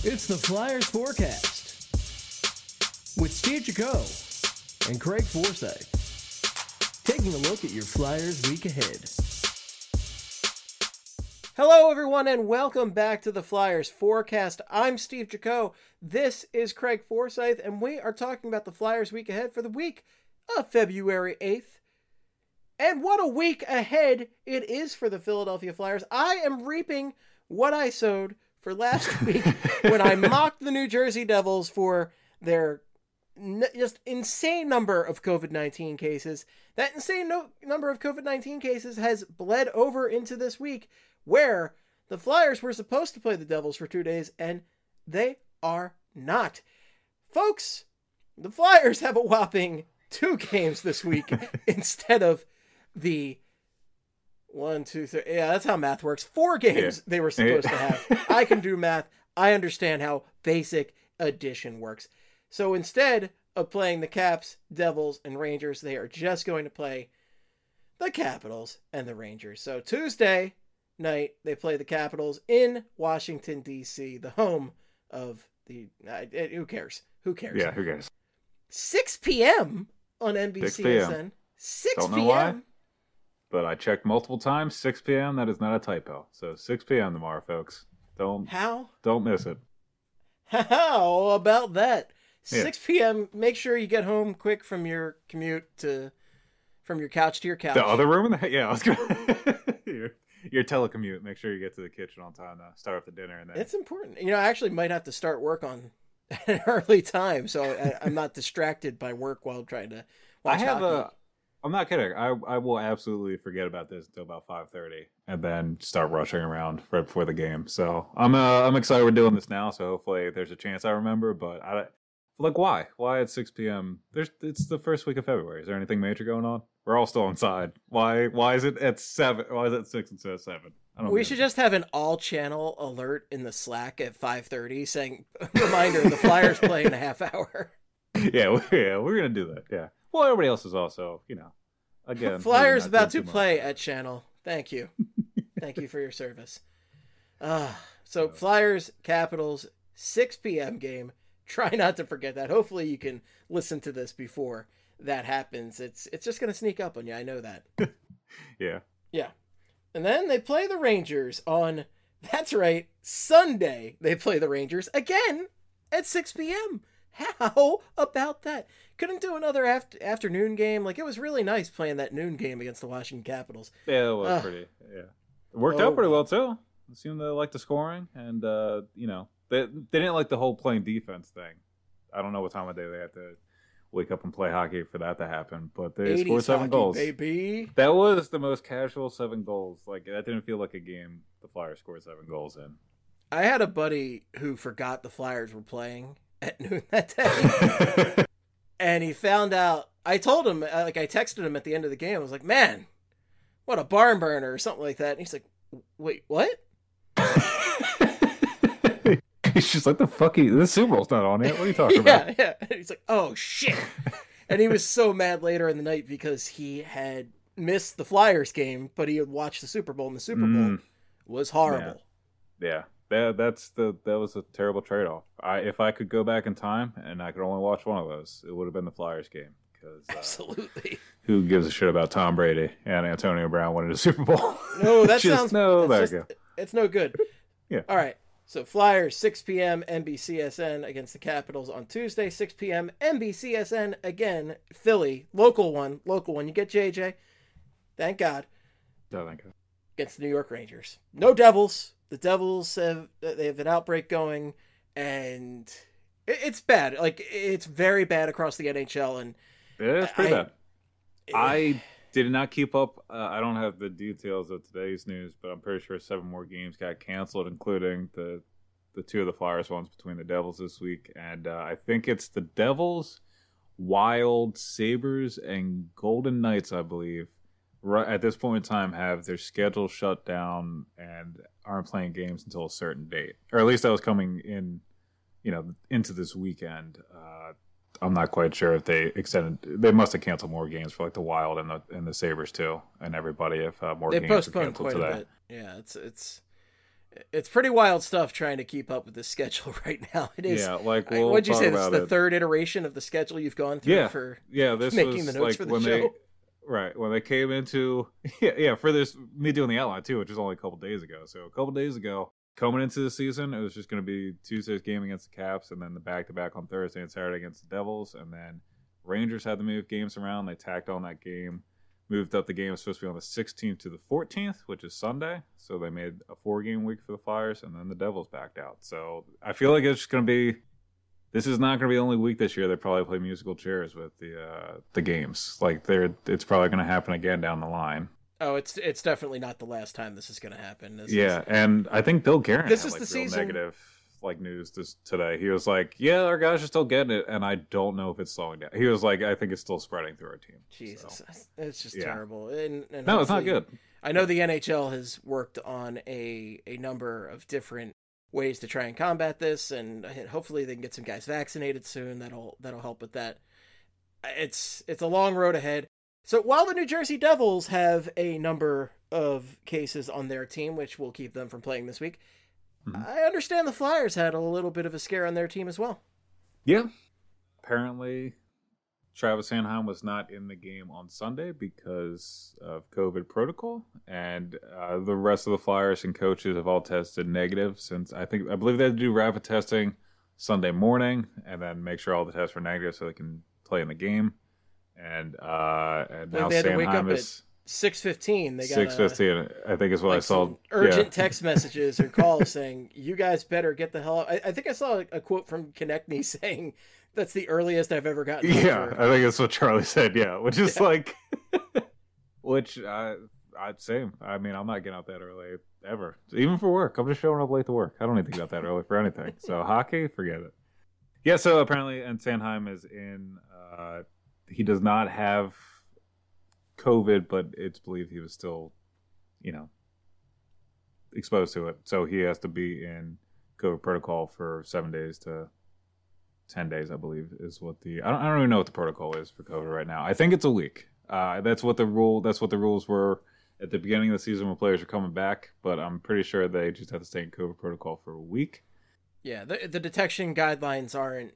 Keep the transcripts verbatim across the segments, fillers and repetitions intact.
It's the Flyers Forecast with Steve Jaco and Craig Forsyth, taking a look at your Flyers week ahead. Hello, everyone, and welcome back to the Flyers Forecast. I'm Steve Jaco. This is Craig Forsyth, and we are talking about the Flyers week ahead for the week of February eighth. And what a week ahead it is for the Philadelphia Flyers. I am reaping what I sowed for last week when I mocked the New Jersey Devils for their n- just insane number of covid nineteen cases. That insane no- number of covid nineteen cases has bled over into this week, where the Flyers were supposed to play the Devils for two days, and they are not. Folks, the Flyers have a whopping two games this week instead of the one, two, three. Yeah, that's how math works. Four games yeah. they were supposed to have. I can do math. I understand how basic addition works. So instead of playing the Caps, Devils, and Rangers, they are just going to play the Capitals and the Rangers. So Tuesday night, they play the Capitals in Washington, D C, the home of the... Uh, it, who cares? Who cares? Yeah, who cares? six p.m. on N B C S N. six p.m. But I checked multiple times. six p.m. That is not a typo. So six p.m. tomorrow, folks. Don't How? Don't miss it. How about that? Yeah. six p.m. Make sure you get home quick from your commute to from your couch to your couch. The other room in the yeah, I was gonna your, your telecommute. Make sure you get to the kitchen on time to start up the dinner. And then it's important. You know, I actually might have to start work on an early time, so I, I'm not distracted by work while trying to watch I have hockey. a. I'm not kidding. I I will absolutely forget about this until about five thirty, and then start rushing around right before the game. So I'm uh, I'm excited we're doing this now. So hopefully there's a chance I remember. But I like why why at six p.m. There's it's the first week of February. Is there anything major going on? We're all still inside. Why why is it at seven? Why is it at six instead of seven? I don't we know. should just have an all-channel alert in the Slack at five thirty saying, "Reminder: the Flyers play in a half hour." Yeah, we, yeah, we're gonna do that. Yeah. Well, everybody else is also, you know, again. Flyers about to play at channel. Thank you. Thank you for your service. Uh, so Flyers, Capitals, six p.m. game. Try not to forget that. Hopefully you can listen to this before that happens. It's it's just going to sneak up on you. I know that. Yeah. Yeah. And then they play the Rangers on, that's right, Sunday. They play the Rangers again at six p.m. How about that? Couldn't do another after- afternoon game. Like, it was really nice playing that noon game against the Washington Capitals. Yeah, it was uh, pretty. Yeah, it worked oh, out pretty well too. It seemed to like the scoring, and uh, you know, they they didn't like the whole playing defense thing. I don't know what time of day they had to wake up and play hockey for that to happen, but they scored seven hockey, goals. Baby. That was the most casual seven goals. Like, that didn't feel like a game the Flyers scored seven goals in. I had a buddy who forgot the Flyers were playing at noon that day. And he found out, I told him, like I texted him at the end of the game, I was like, man, what a barn burner or something like that. And he's like, wait, what? He's just like, the fuck, you, the Super Bowl's not on yet. What are you talking yeah, about? Yeah, and he's like, oh shit. And he was so mad later in the night because he had missed the Flyers game, but he had watched the Super Bowl, and the Super mm. Bowl was horrible. Yeah. yeah. That that's the that was a terrible trade-off. I if I could go back in time and I could only watch one of those, it would have been the Flyers game. Because uh, absolutely, who gives a shit about Tom Brady and Antonio Brown winning a Super Bowl? No, that just, sounds no. There just, you go. It's no good. Yeah. All right. So Flyers six p.m. N B C S N against the Capitals on Tuesday. six p.m. N B C S N again. Philly, local one, local one. You get J J. Thank God. No, thank God. Against the New York Rangers. No Devils. The Devils have they have an outbreak going, and it's bad. Like, it's very bad across the N H L, and yeah, it's pretty I, bad. I did not keep up. Uh, I don't have the details of today's news, but I'm pretty sure seven more games got canceled, including the the two of the Flyers ones between the Devils this week, and uh, I think it's the Devils, Wild, Sabres, and Golden Knights, I believe. Right at this point in time, have their schedule shut down and aren't playing games until a certain date, or at least that was coming in, you know, into this weekend. Uh, I'm not quite sure if they extended. They must have canceled more games for like the Wild and the and the Sabres too, and everybody if uh, more they games were postponed canceled quite today. a bit. Yeah, it's it's It's pretty wild stuff trying to keep up with the schedule right now. It is. Yeah, like we'll what'd you talk say? This is about the it. third iteration of the schedule you've gone through Yeah, for yeah. This making was the notes like for the when show. they, right when they came into, yeah, yeah, for this me doing the outline too, which was only a couple days ago. So a couple days ago, coming into the season, it was just going to be Tuesday's game against the Caps, and then the back to back on Thursday and Saturday against the Devils, and then Rangers had to move games around. They tacked on that game. Moved up the game. It was supposed to be on the sixteenth to the fourteenth, which is Sunday. So they made a four-game week for the Flyers, and then the Devils backed out. So I feel like it's just going to be – this is not going to be the only week this year they probably play musical chairs with the uh, the games. Like, they're it's probably going to happen again down the line. Oh, it's it's definitely not the last time this is going to happen. This yeah, is, and I think Bill Guerin This had is like the real season- negative like news this today. He was like, "Yeah, our guys are still getting it, and I don't know if it's slowing down." He was like, "I think it's still spreading through our team." Jesus, So, it's just yeah. terrible. And, and no, it's not hopefully- good. I know the N H L has worked on a a number of different ways to try and combat this, and hopefully they can get some guys vaccinated soon. That'll that'll help with that. It's it's a long road ahead. So while the New Jersey Devils have a number of cases on their team, which will keep them from playing this week, Mhm. I understand the Flyers had a little bit of a scare on their team as well. Yeah. Apparently, Travis Sanheim was not in the game on Sunday because of COVID protocol, and uh, the rest of the Flyers and coaches have all tested negative since I think I believe they had to do rapid testing Sunday morning and then make sure all the tests were negative so they can play in the game. And uh, and Well, now they had to wake Sanheim up is six fifteen. They got six fifteen. I think is what like I saw. some urgent yeah. text messages or calls saying, "You guys better get the hell out." I, I think I saw a, a quote from Konechny saying, "That's the earliest I've ever gotten." up Yeah, for-" I think that's what Charlie said. Yeah, which is Yeah. like, which I, I'd say. I mean, I'm not getting out that early ever, even for work. I'm just showing up late to work. I don't need to get out that early for anything. So hockey, forget it. Yeah. So apparently, and Sanheim is in. Uh, he does not have COVID, but it's believed he was still, you know, exposed to it. So he has to be in COVID protocol for seven days to ten days, I believe, is what the I don't, I don't even know what the protocol is for COVID right now. I think it's a week. Uh, that's what the rule. That's what the rules were at the beginning of the season when players are coming back. But I'm pretty sure they just have to stay in COVID protocol for a week. Yeah, the the detection guidelines aren't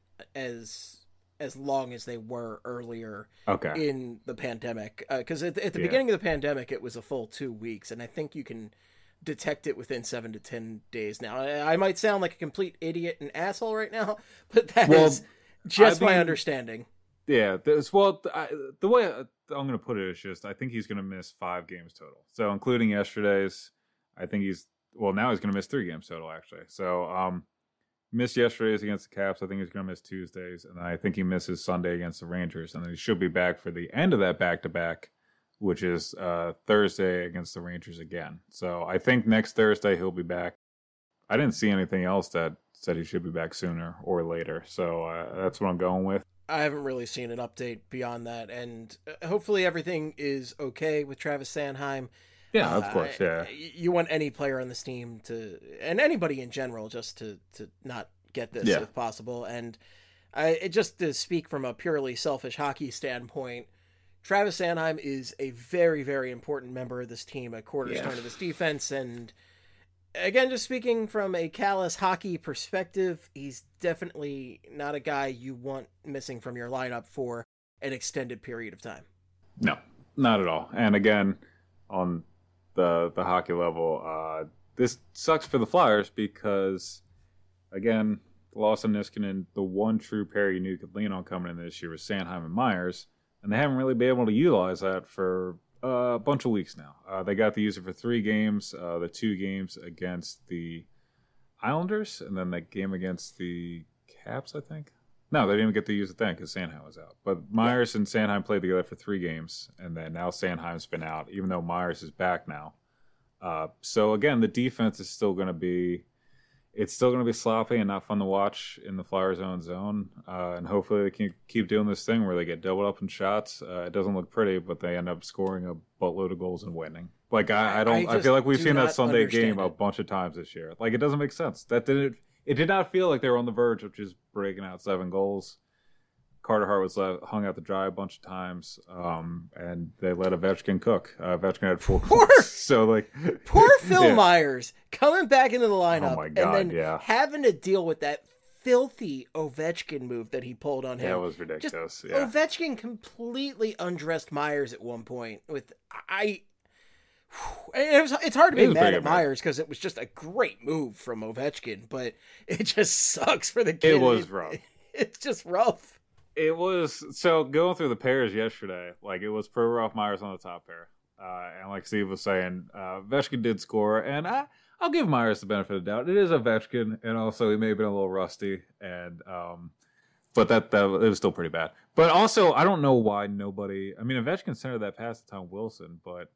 as as long as they were earlier Okay. in the pandemic. Because at, at the Yeah. beginning of the pandemic, it was a full two weeks, and I think you can detect it within seven to ten days now. I, I might sound like a complete idiot and asshole right now, but that Well, is just I my mean- understanding. Yeah, this, well, I, the way I, I'm going to put it is just I think he's going to miss five games total. So including yesterday's, I think he's well now he's going to miss three games total actually. So um, missed yesterday's against the Caps. I think he's going to miss Tuesdays, and then I think he misses Sunday against the Rangers, and then he should be back for the end of that back to back, which is uh, Thursday against the Rangers again. So I think next Thursday he'll be back. I didn't see anything else that said he should be back sooner or later, so uh, that's what I'm going with. I haven't really seen an update beyond that, and uh, hopefully everything is okay with Travis Sanheim. Yeah, Uh, of course, yeah. y- You want any player on this team to, and anybody in general, just to, to not get this Yeah. if possible. And I, it just to speak from a purely selfish hockey standpoint, Travis Sanheim is a very, very important member of this team, a cornerstone Yeah. of this defense. And again, just speaking from a callous hockey perspective, he's definitely not a guy you want missing from your lineup for an extended period of time. No, not at all. And again, on the the hockey level, uh, this sucks for the Flyers because, again, the loss of Niskanen, the one true pair you knew could lean on coming in this year was Sanheim and Myers, and they haven't really been able to utilize that for uh, a bunch of weeks now. Uh, they got to use it for three games, uh, the two games against the Islanders, and then that game against the Caps, I think. No, they didn't even get to use it then because Sanheim was out. But Myers and Sanheim played together for three games, and then now Sanheim's been out, even though Myers is back now. Uh, so again, the defense is still going to be, it's still going to be sloppy and not fun to watch in the Flyers' own zone. Uh, and hopefully they can keep doing this thing where they get doubled up in shots. Uh, it doesn't look pretty, but they end up scoring a boatload of goals and winning. Like I, I don't, I I, just feel like we've do seen that not Sunday understand game a it. bunch of times this year. Like it doesn't make sense. That didn't. It did not feel like they were on the verge of just breaking out seven goals. Carter Hart was let, hung out to dry a bunch of times, um, and they let Ovechkin cook. Uh, Ovechkin had four Poor, goals. So, like, poor Phil yeah. Myers coming back into the lineup Oh my God, and then yeah. having to deal with that filthy Ovechkin move that he pulled on him. Yeah, it was ridiculous. Just, yeah. Ovechkin completely undressed Myers at one point. With I, it was, it's hard to be mad at Myers because it was just a great move from Ovechkin, but it just sucks for the kid. It was rough. It's just rough. It was so going through the pairs yesterday. Like, it was Provorov, Myers on the top pair, uh, and like Steve was saying, uh, Ovechkin did score, and I, I'll give Myers the benefit of the doubt. It is Ovechkin, and also he may have been a little rusty, and um, but that that it was still pretty bad. But also, I don't know why nobody. I mean, Ovechkin centered that pass to Tom Wilson, but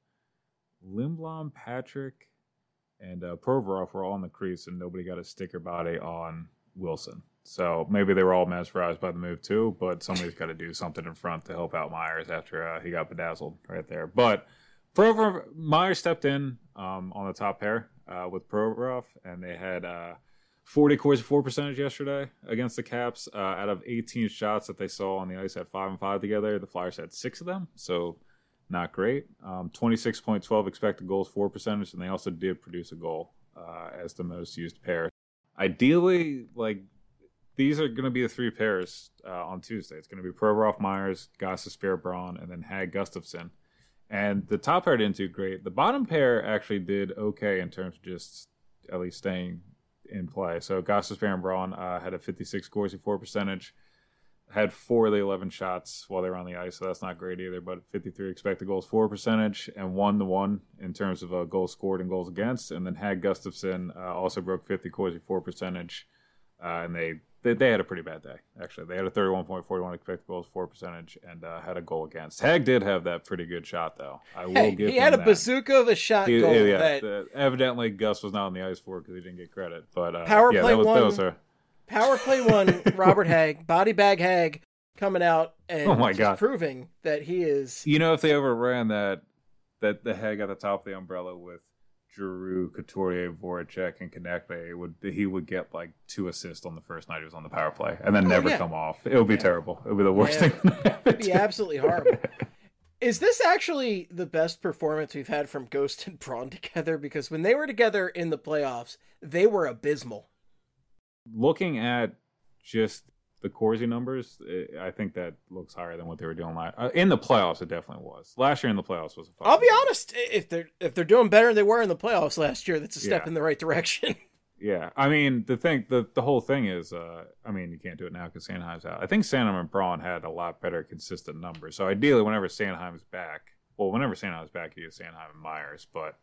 Lindblom, Patrick, and uh, Provorov were all in the crease, and nobody got a sticker body on Wilson. So maybe they were all mesmerized by the move too, but somebody's got to do something in front to help out Myers after uh, he got bedazzled right there. But Provorov, Myers stepped in um, on the top pair uh, with Provorov, and they had uh, forty Corsi for percentage yesterday against the Caps. Uh, out of eighteen shots that they saw on the ice at five and five together, the Flyers had six of them, so not great. Um, twenty-six point one two expected goals for percentage, and they also did produce a goal uh, as the most used pair. Ideally, like, these are going to be the three pairs uh, on Tuesday. It's going to be Provorov, Myers, Gostisbehere, Braun, and then Hag, Gustafsson. And the top pair didn't do great. The bottom pair actually did okay in terms of just at least staying in play. So Gostisbehere and Braun uh, had a fifty-six Corsi for percentage, had four of the eleven shots while they were on the ice, so that's not great either, but fifty-three expected goals for percentage, and one to one in terms of uh, goals scored and goals against. And then Hag, Gustafsson uh, also broke fifty Corsi for percentage, uh, and they They, they had a pretty bad day, actually. They had a thirty-one point four one expected goals for percentage and uh, had a goal against. Hag did have that pretty good shot, though. I will hey, give he him had a that. bazooka of a shot he, goal. Yeah, that uh, evidently Gus was not on the ice for it because he didn't get credit. But uh, power yeah, play that was, one. That was a... Power play one. Robert Hag, body bag Hag, coming out and Oh my just God. proving that he is. You know, if they ever ran that, that the Hag at the top of the umbrella with Giroux, Couturier, Voracek, and Konechny, it would he would get like two assists on the first night he was on the power play, and then Oh, never yeah. come off. It would be Yeah. terrible. It would be the worst Yeah. thing. It'd be absolutely horrible. Is this actually the best performance we've had from Ghost and Braun together? Because when they were together in the playoffs, they were abysmal. Looking at just the Corsi numbers, it, I think that looks higher than what they were doing last. Uh, in the playoffs, it definitely was. Last year in the playoffs was a fucking I'll be honest, if they're if they're doing better than they were in the playoffs last year, that's a step Yeah. in the right direction. Yeah, I mean the thing, the the whole thing is, uh, I mean you can't do it now because Sanheim's out. I think Sanheim and Braun had a lot better consistent numbers. So ideally, whenever Sanheim's back, well, whenever Sanheim's back, you get Sanheim and Myers. But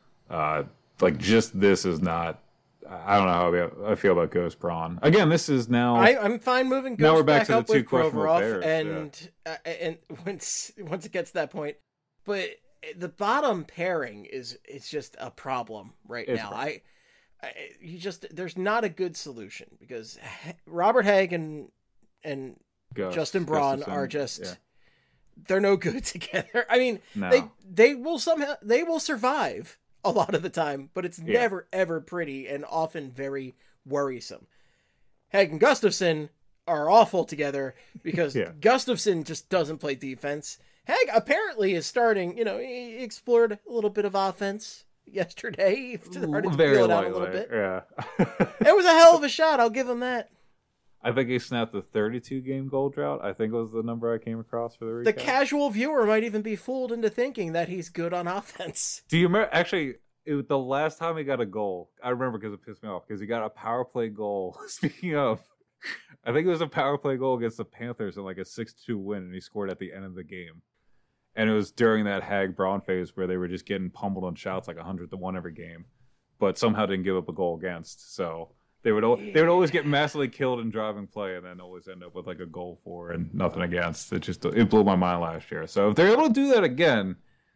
uh, like just this is not. I don't know how I feel- I feel about Ghost Braun. Again, this is now. I, I'm fine moving Ghost Now we're back back to the up two with questionable Provorov, pairs, and uh, and once once it gets to that point, but the bottom pairing is it's just a problem right It's now. rough. I, I you just there's not a good solution because Robert Hag and and Gus- Justin Braun Gustafsson, are just yeah. they're no good together. I mean, No. they they will somehow they will survive a lot of the time, but it's Yeah. never ever pretty and often very worrisome. Hag and Gustafsson are awful together because Yeah. Gustafsson just doesn't play defense. Hag apparently is starting, you know, he explored a little bit of offense yesterday. He started to Very feel it out a lightly, little bit. Yeah. It was a hell of a shot, I'll give him that. I think he snapped the thirty-two game goal drought. I think was the number I came across for the recap. The casual viewer might even be fooled into thinking that he's good on offense. Do you remember? Actually, it was the last time he got a goal. I remember because it pissed me off because he got a power play goal. Speaking of, I think it was a power play goal against the Panthers in like a six two win, and he scored at the end of the game. And it was during that Hag Braun phase where they were just getting pummeled on shots like a hundred to one every game, but somehow didn't give up a goal against. So. They would al- they would always get massively killed in driving play, and then always end up with like a goal for and nothing against. It just it blew my mind last year. So if they're able to do that again,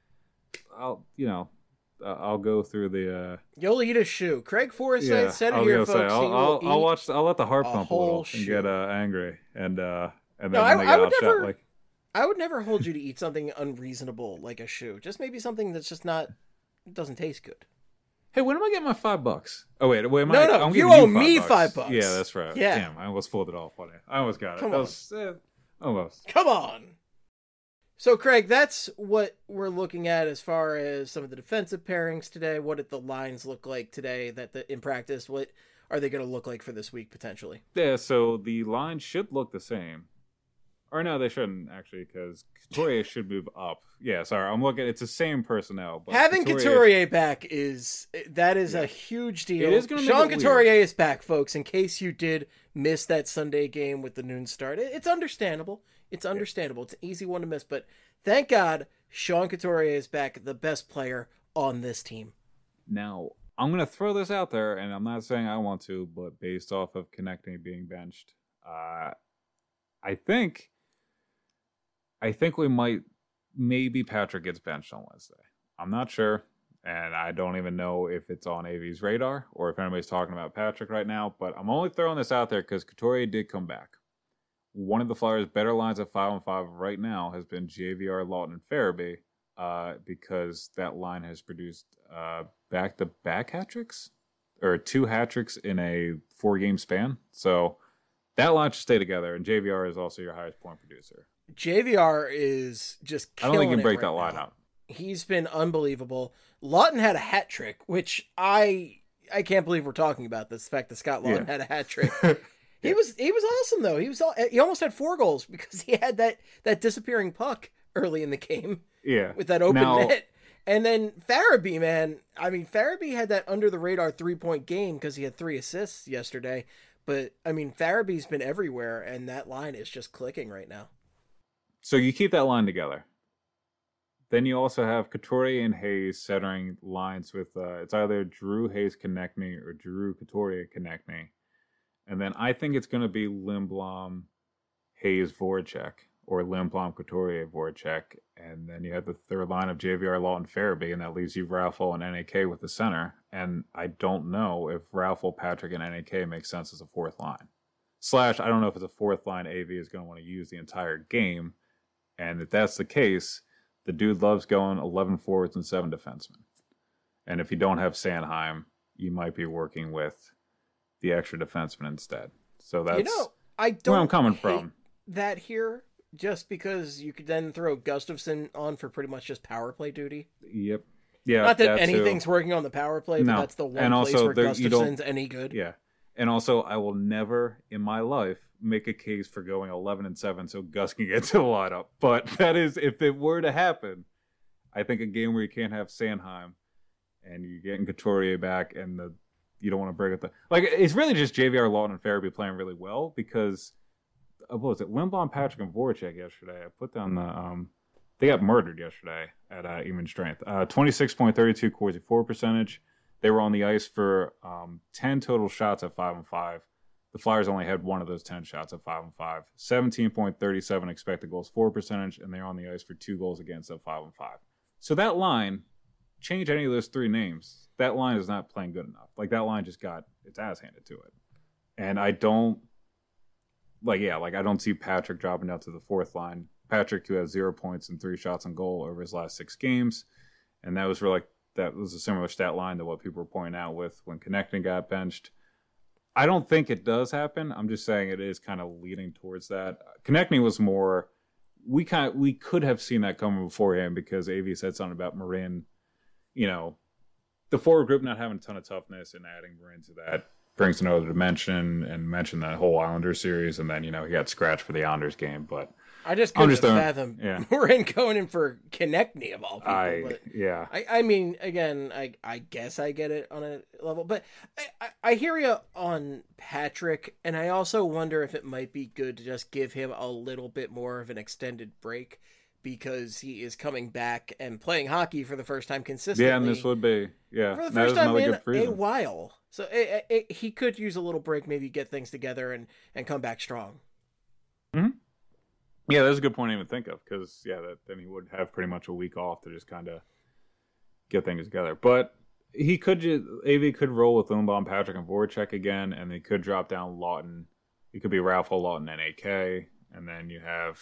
I'll you know uh, I'll go through the. Uh, You'll eat a shoe. Craig Forsyth yeah, said I it was here, gonna folks. say, he I'll, will I'll, I'll eat watch. I'll let the heart a pump a little whole and shoe. get uh, angry, and uh, and then No, when I- they I get would outshot, never- like I would never hold you to eat something unreasonable like a shoe. Just maybe something that's just not doesn't taste good. hey, when am I getting my five bucks? Oh wait, wait, am No, I, no, I'm you giving owe five me bucks. five bucks. Yeah, that's right. Yeah. Damn, I almost pulled it off on it. I almost got it. Come That on. was, eh, Almost. Come on. So, Craig, that's what we're looking at as far as some of the defensive pairings today. What did the lines look like today that the, in practice? What are they going to look like for this week, potentially? Yeah, so the line should look the same. Or no, they shouldn't, actually, because Couturier should move up. Yeah, sorry, I'm looking. It's the same personnel. But Having Couturier, Couturier back is, that is Yeah. a huge deal. It is gonna make Sean it Couturier weird. is back, folks, in case you did miss that Sunday game with the noon start. It- It's understandable. It's understandable. It's an easy one to miss, but thank God Sean Couturier is back, the best player on this team. Now, I'm going to throw this out there, and I'm not saying I want to, but based off of Connecting being benched, uh, I think, I think we might, maybe Patrick gets benched on Wednesday. I'm not sure, and I don't even know if it's on A V's radar or if anybody's talking about Patrick right now, but I'm only throwing this out there because Couturier did come back. One of the Flyers' better lines at five on five right now has been J V R, Lawton, and Farabee, uh, because that line has produced uh, back-to-back hat tricks, or two hat tricks in a four-game span. So that line should stay together, and J V R is also your highest point producer. J V R is just I killing don't think you can break it that right line now. up. He's been unbelievable. Lawton had a hat trick, which I I can't believe we're talking about this. The fact that Scott Lawton Yeah. had a hat trick. He was he was awesome though. He was all, he almost had four goals because he had that that disappearing puck early in the game Yeah. with that open Now- net. And then Farabee, man, I mean Farabee had that under the radar three point game because he had three assists yesterday. But I mean Farabee's been everywhere, and that line is just clicking right now. So you keep that line together. Then you also have Couturier and Hayes centering lines with, uh, it's either Drew Hayes Konechny or Drew Couturier Konechny. And then I think it's going to be Lindblom, Hayes, Voracek, or Lindblom, Couturier, Voracek. And then you have the third line of J V R, Lawton, Farabee, and that leaves you Raffle and N A K with the center. And I don't know if Raffle, Patrick, and N A K makes sense as a fourth line. Slash, I don't know if it's a fourth line A V is going to want to use the entire game. And if that's the case, the dude loves going eleven forwards and seven defensemen. And if you don't have Sanheim, you might be working with the extra defenseman instead. So that's you know, I don't where I'm coming hate from. that here, just because you could then throw Gustafson on for pretty much just power play duty. Yep. Yeah. Not that, that too. anything's working on the power play, but No. that's the one And place also where there- you don't- Gustafson's any good. Yeah. And also, I will never in my life make a case for going eleven and seven so Gus can get to the lineup. But that is, if it were to happen, I think a game where you can't have Sanheim and you're getting Couturier back and the you don't want to break up the like it's really just J V R, Lawton, and Farabee playing really well because uh, what was it? Lindblom, Patrick, and Voracek yesterday. I put down the um they got murdered yesterday at uh, even strength. Uh, twenty-six point three two Corsi four percentage. They were on the ice for um, ten total shots at five and five. The Flyers only had one of those ten shots at five and five. seventeen point three seven expected goals for percentage, and they're on the ice for two goals against at five and five. So that line, change any of those three names, that line is not playing good enough. Like that line just got its ass handed to it. And I don't, like, yeah, like I don't see Patrick dropping down to the fourth line. Patrick, who has zero points and three shots on goal over his last six games. And that was really, that was a similar stat line to what people were pointing out with when Konechny got benched. I don't think it does happen. I'm just saying it is kind of leading towards that. Konechny was more, we kind of, we could have seen that coming beforehand because A V said something about Marin, you know, the forward group not having a ton of toughness and adding Marin to that brings another dimension and mentioned that whole Islanders series. And then, you know, he got scratched for the Islanders game, but I just I'm couldn't just throwing- fathom yeah. we're in going in for Konechny of all people. I, but yeah. I, I mean, again, I I guess I get it on a level, but I, I, I hear you on Patrick, and I also wonder if it might be good to just give him a little bit more of an extended break because he is coming back and playing hockey for the first time consistently. Yeah, and this would be, yeah. for the that first is time another in good a reason. while. So it, it, he could use a little break, maybe get things together and, and come back strong. Yeah, that's a good point to even think of because, yeah, that, then he would have pretty much a week off to just kind of get things together. But he could just, A V could roll with Lindblom, Patrick, and Voracek again, and they could drop down Lawton. It could be Raffle, Lawton, and A K, and then you have,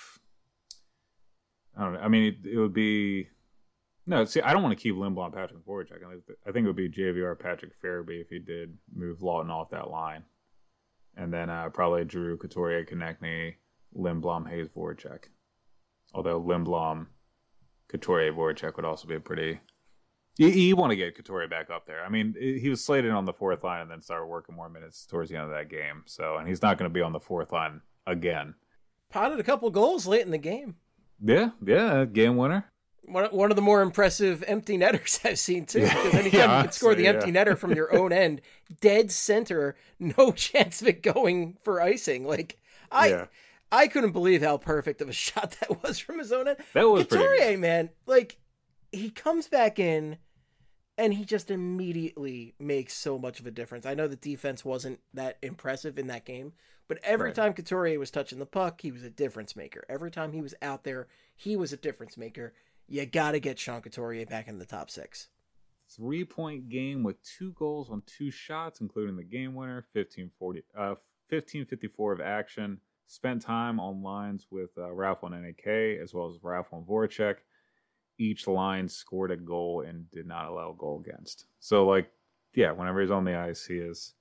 I don't know, I mean, it, it would be, no, see, I don't want to keep Lindblom, Patrick, and Voracek. I think, I think it would be J V R, Patrick, Farabee if he did move Lawton off that line. And then uh, probably Drew, Couturier, Konechny, Lindblom, Hayes, Voracek. Although Lindblom, Couturier, Voracek would also be a pretty... You, you want to get Couturier back up there. I mean, he was slated on the fourth line and then started working more minutes towards the end of that game. So, and he's not going to be on the fourth line again. Potted a couple goals late in the game. Yeah, yeah, game winner. One, one of the more impressive empty netters I've seen, too. Because anytime yeah, you can score the yeah. empty netter from your own end, dead center, no chance of it going for icing. Like, I Yeah. I couldn't believe how perfect of a shot that was from his own end. That was pretty Couturier, good. man, like, he comes back in, and he just immediately makes so much of a difference. I know the defense wasn't that impressive in that game, but every Right. time Couturier was touching the puck, he was a difference maker. Every time he was out there, he was a difference maker. You got to get Sean Couturier back in the top six. Three-point game with two goals on two shots, including the game winner, fifteen forty, uh, fifteen fifty-four of action. Spent time on lines with uh, Ralph and N A K, as well as Ralph and Voracek. Each line scored a goal and did not allow a goal against. So, like, yeah, whenever he's on the ice, he is...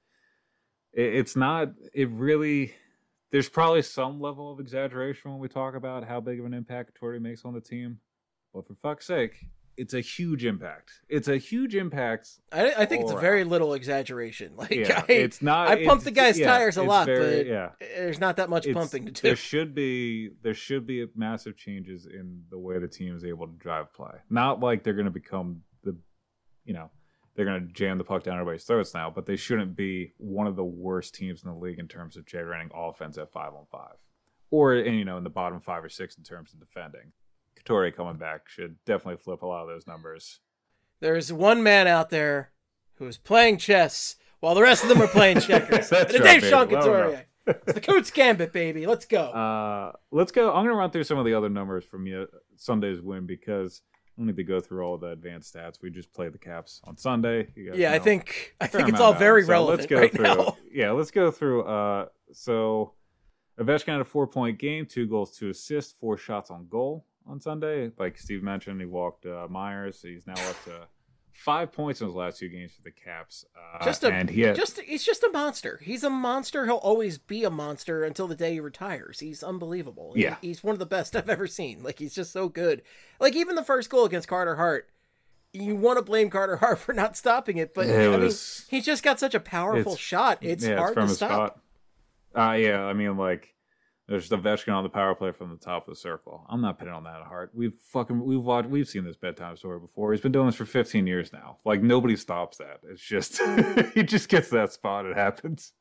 It, it's not... It really... There's probably some level of exaggeration when we talk about how big of an impact Couturier makes on the team. But for fuck's sake, it's a huge impact. It's a huge impact. I, I think it's a all very around. little exaggeration. Like, Yeah, I, it's not. I pump it's- the guy's yeah, tires a it's lot, very- but yeah. there's not that much It's- pumping to do. There should be there should be massive changes in the way the team is able to drive play. Not like they're going to become the, you know, they're going to jam the puck down everybody's throats now, but they shouldn't be one of the worst teams in the league in terms of generating offense at five on five, or in, you know, in the bottom five or six in terms of defending. Couturier coming back should definitely flip a lot of those numbers. There's one man out there who is playing chess while the rest of them are playing checkers. That's and right, it's Dave Sean baby. Let 'em know. Couturier. It's the Coots Gambit, baby. Let's go. Uh, let's go. I'm going to run through some of the other numbers from you, Sunday's win, because I don't need to go through all the advanced stats. We just played the Caps on Sunday. You guys yeah, I know think I a fair think it's amount all about very it. So relevant let's go right through, now. Yeah, let's go through. Uh, so Ovechkin had a four-point game, two goals, two assists, four shots on goal on Sunday. Like Steve mentioned, he walked uh, Myers. He's now up to five points in his last two games for the Caps. Uh, Just a, and he had, just he's just a monster. He's a monster. He'll always be a monster until the day he retires. He's unbelievable. He- Yeah. he's one of the best I've ever seen. Like, he's just so good. Like, even the first goal against Carter Hart, you want to blame Carter Hart for not stopping it, but It I mean, was- he's just got such a powerful it's- shot. It's yeah, hard from to his stop. spot. Uh, yeah, I mean, like, there's the Ovechkin on the power play from the top of the circle. I'm not pitting on that hard. We've fucking we've watched we've seen this bedtime story before. He's been doing this for fifteen years now. Like, nobody stops that. It's just he just gets that spot. It happens.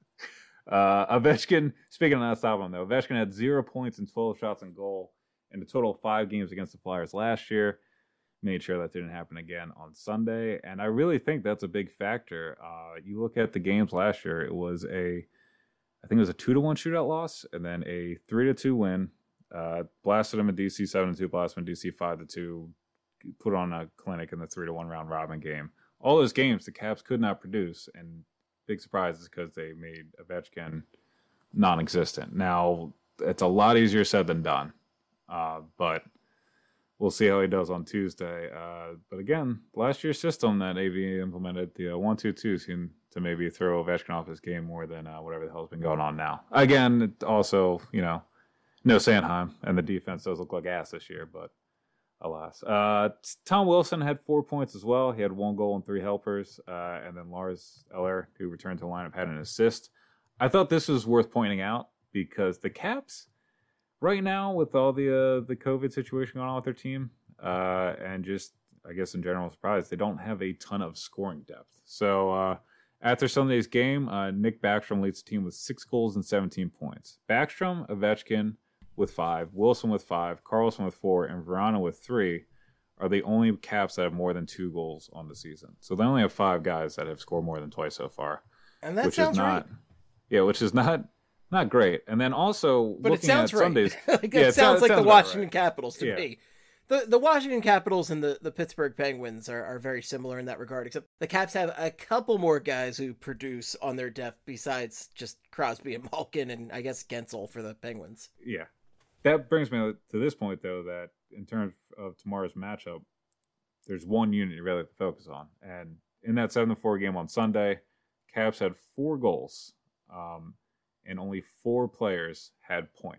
Uh, Ovechkin. Speaking of not stopping him though, Ovechkin had zero points and twelve shots in goal in a total of five games against the Flyers last year. Made sure that didn't happen again on Sunday, and I really think that's a big factor. Uh, you look at the games last year; it was a I think it was a two to one shootout loss, and then a three to two win. Uh, blasted them in D C seven to two, blasted them in D C five to two. Put on a clinic in the three to one round robin game. All those games the Caps could not produce, and big surprise is because they made Ovechkin non-existent. Now it's a lot easier said than done, uh, but we'll see how he does on Tuesday. Uh, but again, last year's system that A V implemented, the uh, one two two, seemed to maybe throw Ovechkin off his game more than uh, whatever the hell's been going on now. Again, it also, you know, no Sanheim, and the defense does look like ass this year, but alas. Uh, Tom Wilson had four points as well. He had one goal and three helpers. Uh, and then Lars Eller, who returned to the lineup, had an assist. I thought this was worth pointing out because the Caps, right now, with all the uh, the COVID situation going on with their team, uh, and just, I guess, in general surprise, they don't have a ton of scoring depth. So, uh, after Sunday's game, uh, Nick Backstrom leads the team with six goals and seventeen points. Backstrom, Ovechkin with five, Wilson with five, Carlson with four, and Verano with three are the only Caps that have more than two goals on the season. So they only have five guys that have scored more than twice so far. And that which sounds is not, right. Yeah, which is not not great. And then also, But it looking sounds at right. Sundays, like, yeah, it it sounds sounds- like it the sounds about Washington right. Capitals to Yeah. me. The the Washington Capitals and the, the Pittsburgh Penguins are, are very similar in that regard, except the Caps have a couple more guys who produce on their depth besides just Crosby and Malkin and I guess Gensel for the Penguins. yeah. That brings me to this point, though, that in terms of tomorrow's matchup, there's one unit you really have to focus on. And in that seven to four game on Sunday, Caps had four goals, um, and only four players had points.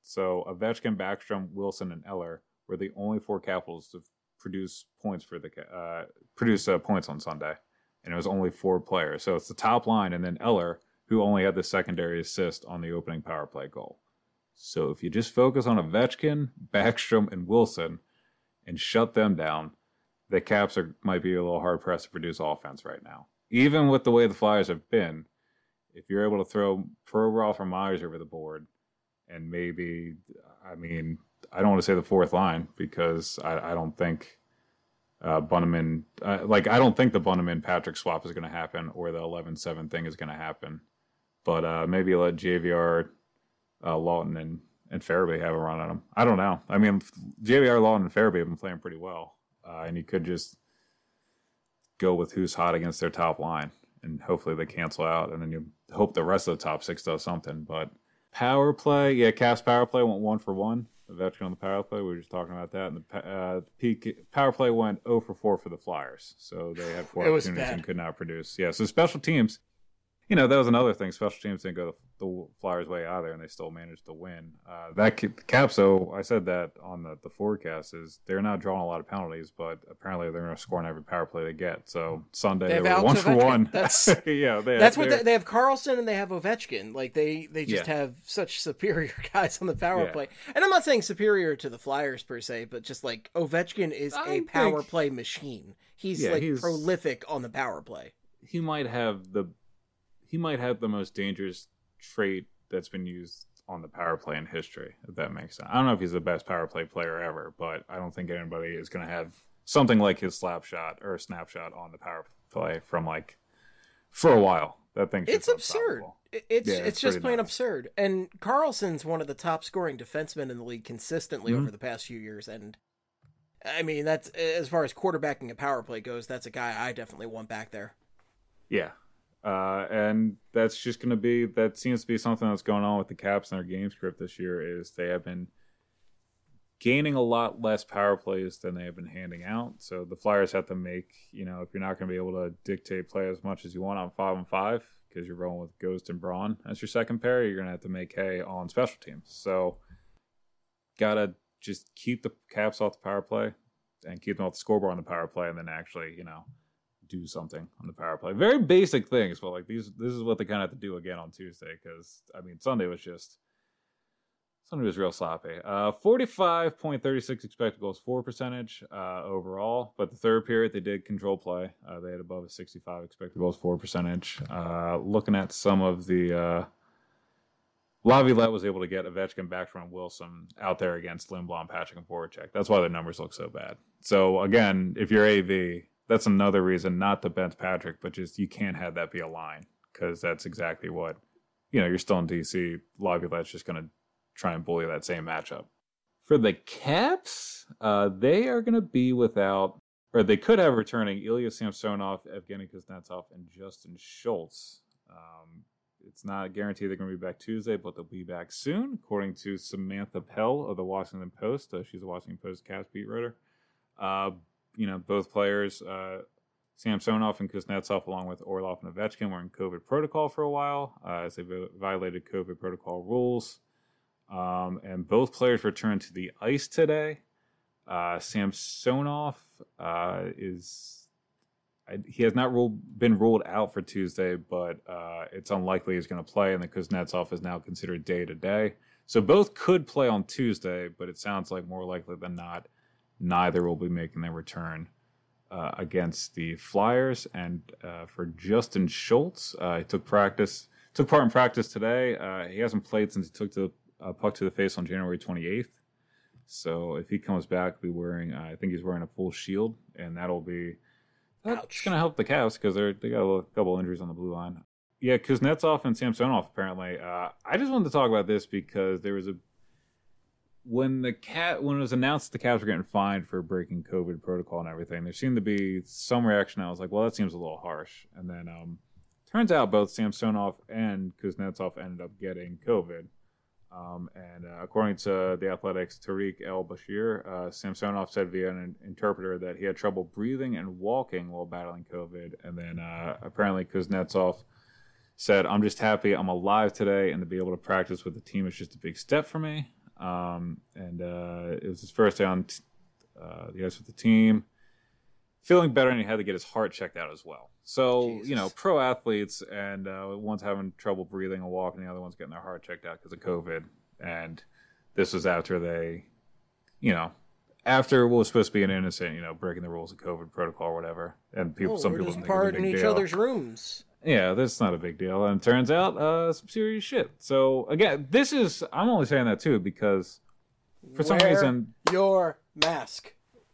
So Ovechkin, Backstrom, Wilson, and Eller were the only four Capitals to produce points for the uh, produce uh, points on Sunday, and it was only four players. So it's the top line, and then Eller, who only had the secondary assist on the opening power play goal. So if you just focus on Ovechkin, Backstrom, and Wilson, and shut them down, the Caps are might be a little hard pressed to produce offense right now. Even with the way the Flyers have been, if you're able to throw Provorov or Myers over the board, and maybe, I mean, I don't want to say the fourth line because I, I don't think uh, Bunnaman, uh, like I don't think the Bunnaman Patrick swap is going to happen or the eleven seven thing is going to happen. But uh, maybe let J V R, uh, Lawton, and, and Farabee have a run on him. I don't know. I mean, J V R, Lawton, and Farabee have been playing pretty well. Uh, and you could just go with who's hot against their top line. And hopefully they cancel out. And then you hope the rest of the top six does something. But power play, yeah, Caps power play went one for one. Ovechkin on the power play, we were just talking about that. And the uh, peak power play went zero for four for the Flyers. So they had four opportunities and could not produce. Yeah, so special teams, you know, that was another thing. Special teams didn't go the Flyers' way either, and they still managed to win. Uh, that Caps, though, I said that on the, the forecast, is they're not drawing a lot of penalties, but apparently they're going to score on every power play they get. So Sunday they, they were one for one. That's yeah, they, that's what they, they have. Carlson and they have Ovechkin. Like they they just yeah. have such superior guys on the power yeah. play. And I'm not saying superior to the Flyers per se, but just like Ovechkin is I a power think, play machine. He's yeah, like he's, prolific on the power play. He might have the he might have the most dangerous trait that's been used on the power play in history, if that makes sense. I don't know if he's the best power play player ever, but I don't think anybody is going to have something like his slap shot or snapshot on the power play from like for a while. That thing's it's absurd. It's yeah, it's, it's just plain nuts. absurd. And Carlson's one of the top scoring defensemen in the league consistently mm-hmm. over the past few years. And I mean, that's as far as quarterbacking a power play goes, that's a guy I definitely want back there. Yeah. Uh, and that's just going to be, that seems to be something that's going on with the Caps and their game script this year is they have been gaining a lot less power plays than they have been handing out. So the Flyers have to make, you know, if you're not going to be able to dictate play as much as you want on five and five, because you're rolling with Ghost and Braun as your second pair, you're going to have to make hay on special teams. So got to just keep the Caps off the power play and keep them off the scoreboard on the power play and then actually, you know, do something on the power play. Very basic things, but like these, this is what they kind of have to do again on Tuesday because I mean Sunday was just Sunday was real sloppy. Uh, forty-five point three six expected goals for percentage uh, overall, but the third period they did control play. Uh, they had above a sixty-five expected goals for percentage. Uh, looking at some of the uh, Laviolette was able to get Ovechkin, Backstrom, Wilson out there against Lindblom, Patrick, and Voracek. That's why their numbers look so bad. So again, if you're A V, that's another reason not to bench Patrick, but just you can't have that be a line because that's exactly what, you know, you're still in D C. Laviolette's just going to try and bully that same matchup. For the Caps, uh, they are going to be without, or they could have returning Ilya Samsonov, Evgeny Kuznetsov, and Justin Schultz. Um, it's not guaranteed they're going to be back Tuesday, but they'll be back soon, according to Samantha Pell of the Washington Post. Uh, she's a Washington Post Caps beat writer. Uh, You know, both players, uh, Samsonov and Kuznetsov, along with Orlov and Ovechkin, were in COVID protocol for a while uh, as they violated COVID protocol rules. Um, and both players returned to the ice today. Uh, Samsonov uh, is I, he has not ruled, been ruled out for Tuesday, but uh, it's unlikely he's going to play. And the Kuznetsov is now considered day to day. So both could play on Tuesday, but it sounds like more likely than not, neither will be making their return uh, against the Flyers. And uh, for Justin Schultz, uh, he took practice, took part in practice today. Uh, he hasn't played since he took the uh, puck to the face on January twenty-eighth. So if he comes back, be wearing, uh, I think he's wearing a full shield, and that'll be that's going to help the Cavs because they they got a couple injuries on the blue line. Yeah, Kuznetsov and Samsonov apparently. Uh, I just wanted to talk about this because there was a when the cat when it was announced the Cavs were getting fined for breaking COVID protocol and everything. There seemed to be some reaction. I was like, well, that seems a little harsh. And then um, turns out both Samsonov and Kuznetsov ended up getting COVID. Um, and uh, according to the Athletics' Tariq El-Bashir, uh, Samsonov said via an interpreter that he had trouble breathing and walking while battling COVID. And then uh, apparently Kuznetsov said, I'm just happy I'm alive today, and to be able to practice with the team is just a big step for me. um, and uh, it was his first day on t- uh, the ice with the team. Feeling better, and he had to get his heart checked out as well. So, Jesus. you know, pro athletes, and uh, one's having trouble breathing and walking, the other one's getting their heart checked out because of COVID. And this was after they, you know, after what was supposed to be an innocent, you know, breaking the rules of COVID protocol or whatever. And people, oh, some we're people just think it's a big partying each deal. other's rooms. Yeah, that's not a big deal. And it turns out uh, some serious shit. So, again, this is, I'm only saying that too because for some Wear reason. your mask.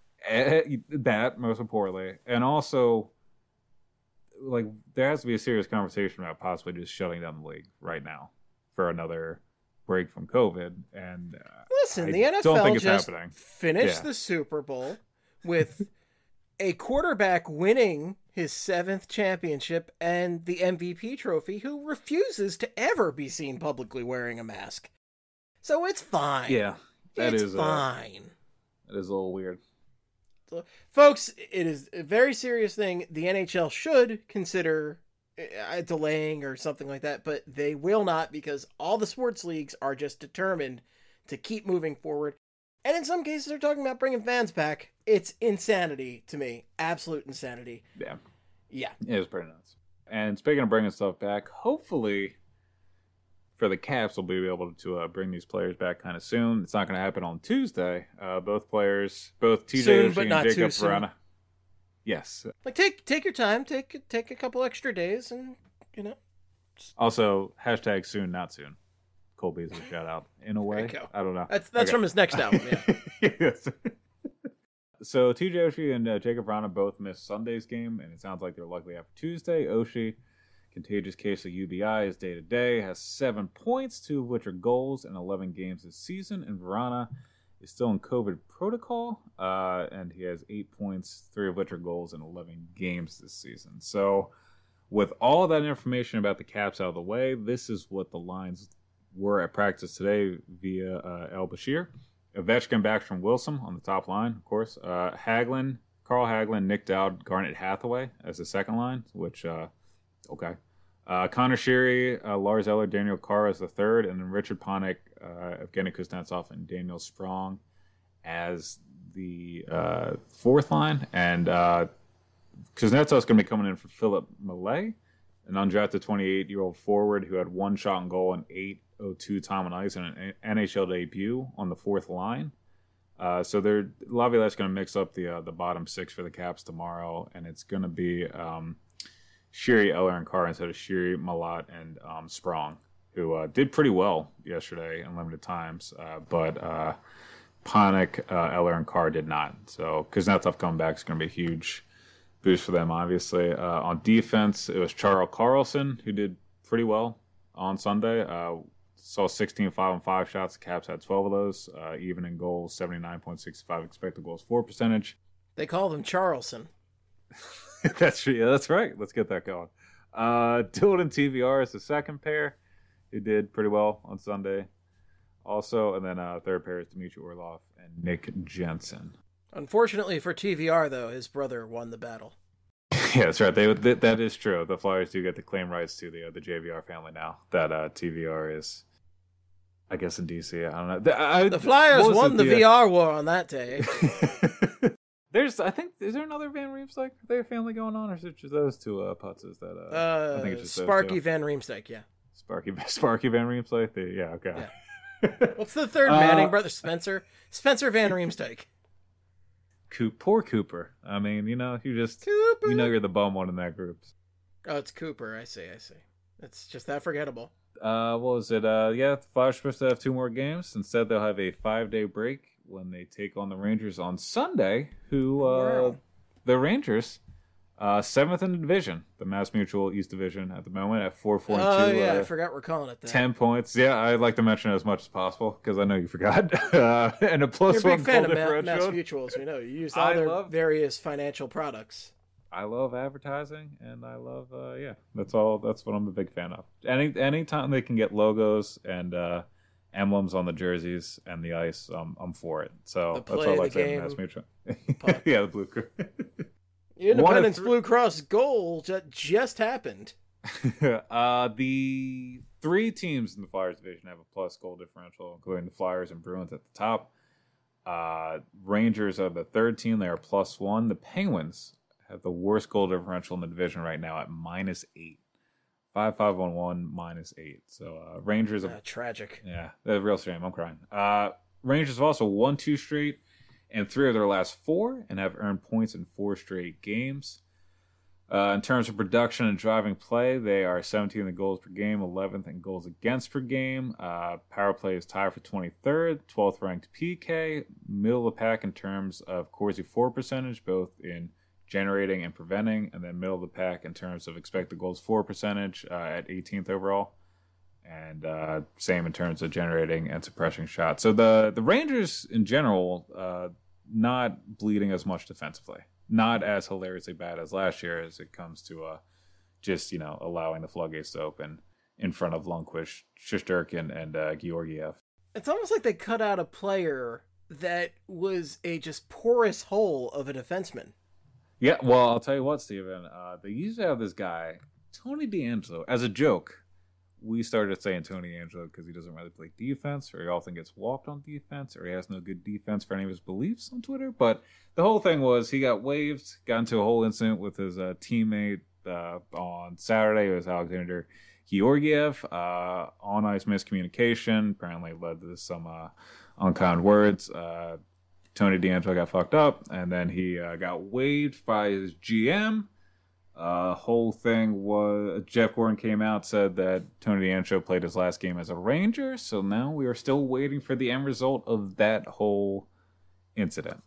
That, most importantly. And also, like, there has to be a serious conversation about possibly just shutting down the league right now for another break from COVID. And uh, listen, I the N F L don't think it's just happening. finished Yeah. the Super Bowl with a quarterback winning his seventh championship and the M V P trophy who refuses to ever be seen publicly wearing a mask. So it's fine. Yeah, that it's is fine. Uh, that is a little weird. So, folks, it is a very serious thing. The N H L should consider uh, delaying or something like that, but they will not because all the sports leagues are just determined to keep moving forward. And in some cases, they're talking about bringing fans back. It's insanity to me. Absolute insanity. Yeah. Yeah. It was pretty nuts. And speaking of bringing stuff back, hopefully for the Caps, we'll be able to uh, bring these players back kind of soon. It's not going to happen on Tuesday. Uh, both players, both T J Oshie and Jacob Vrana. Yes. Like, take take your time. Take, take a couple extra days and, you know. Also, hashtag soon, not soon. Cole Beasley shout out in a way. There you go. I don't know. That's that's Okay. from his next album, yeah. Yes. So T J Oshie and uh, Jacob Vrana both missed Sunday's game, and it sounds like they're likely after Tuesday. Oshie, contagious case of U B I, is day to day, has seven points, two of which are goals in eleven games this season, and Vrana is still in COVID protocol, uh, and he has eight points, three of which are goals in eleven games this season. So, with all that information about the Caps out of the way, this is what the lines were at practice today via uh, El Bashir. Ovechkin back from Wilson on the top line, of course. Uh, Hagelin, Carl Hagelin, Nick Dowd, Garnet Hathaway as the second line, which, uh, okay. Uh, Connor Sheary, uh, Lars Eller, Daniel Carr as the third, and then Richard Panik, uh, Evgeny Kuznetsov, and Daniel Sprong as the uh, fourth line. And uh, Kuznetsov's going to be coming in for Philip Millet, an undrafted twenty-eight-year-old forward who had one shot on goal and eight oh two time on ice in an N H L debut on the fourth line. Uh, so they're Laviolette's going to mix up the uh, the bottom six for the Caps tomorrow, and it's going to be um, Sheary, Eller, and Carr instead of Sheary, Malat, and um, Sprong, who uh, did pretty well yesterday in limited times, uh, but uh, Panik, uh, Eller, and Carr did not. So Kuznetsov coming back is going to be a huge boost for them, obviously. Uh, on defense, it was Charles Carlson who did pretty well on Sunday. Uh, saw sixteen five and five shots. The Caps had twelve of those. Uh, even in goals, seventy-nine point six five expected goals for percentage. They call him Charleston. That's yeah, that's right. Let's get that going. Uh, Dylan and T V R is the second pair who did pretty well on Sunday. Also, and then uh, third pair is Dmitry Orlov and Nick Jensen. Unfortunately for T V R, though, his brother won the battle. Yeah, that's right. They, that, that is true. The Flyers do get the claim rights to the uh, the J V R family now. That uh, T V R is, I guess, in D C. I don't know. The, I, the Flyers won it? the yeah. V R war on that day. There's, I think, is there another Van Riemsdyk? Are they a family going on, or is it just those two uh, putzes that? Uh, Uh, I think it's just Sparky those two. Van Riemsdyk, yeah. Sparky, Sparky Van Riemsdyk. The, yeah, okay. Yeah. What's the third Uh, Manning brother? Spencer? Spencer Van Riemsdyk. Coop, poor Cooper. I mean, you know, you just, Cooper. you know, you're the bum one in that group. Oh, it's Cooper. I see, I see. It's just that forgettable. Uh, what was it? Uh, yeah, the Flyers are supposed to have two more games. Instead, they'll have a five-day break when they take on the Rangers on Sunday, who, uh, Wow. the Rangers, uh, seventh in the division, the Mass Mutual East Division at the moment at four four Oh, two. yeah, uh, I forgot we're calling it that. ten points. Yeah, I'd like to mention it as much as possible because I know you forgot. uh, and a plus You're a one big fan goal of Ma- Mass differential. Mutuals. We know you use all I their love- various financial products. I love advertising, and I love, uh, yeah, that's all. That's what I'm a big fan of. Any anytime they can get logos and uh, emblems on the jerseys and the ice, um, I'm for it. So The that's play all I of like the to have in game Mass Mutual. puck. Yeah, the blue crew. Independence three- Blue Cross goal ju- just happened. uh, the three teams in the Flyers division have a plus goal differential, including the Flyers and Bruins at the top. Uh, Rangers are the third team. They are plus one. The Penguins have the worst goal differential in the division right now at minus eight. Five, five, one, one, minus eight. So uh, Rangers are uh, tragic. Yeah, a real shame. I'm crying. Uh, Rangers have also won two straight and three of their last four, and have earned points in four straight games. Uh, in terms of production and driving play, they are seventeenth in goals per game, eleventh in goals against per game. Uh, power play is tied for twenty-third, twelfth ranked P K, middle of the pack in terms of Corsi for percentage, both in generating and preventing, and then middle of the pack in terms of expected goals for percentage uh, at eighteenth overall, and uh, same in terms of generating and suppressing shots. So the the Rangers in general, uh, not bleeding as much defensively. Not as hilariously bad as last year as it comes to uh, just, you know, allowing the floodgates to open in front of Lundqvist, Shesterkin, and uh, Georgiev. It's almost like they cut out a player that was a just porous hole of a defenseman. Yeah, well, I'll tell you what, Steven. Uh, they used to have this guy, Tony DeAngelo, as a joke. We started saying Tony DeAngelo because he doesn't really play defense, or he often gets walked on defense, or he has no good defense for any of his beliefs on Twitter. But the whole thing was he got waived, got into a whole incident with his uh, teammate uh, on Saturday. It was Alexander Georgiev. Uh, on-ice miscommunication apparently led to some uh, unkind words. Uh, Tony DeAngelo got fucked up, and then he uh, got waived by his G M. Uh, whole thing was Jeff Gordon came out, said that Tony DeAngelo played his last game as a Ranger, so now we are still waiting for the end result of that whole incident.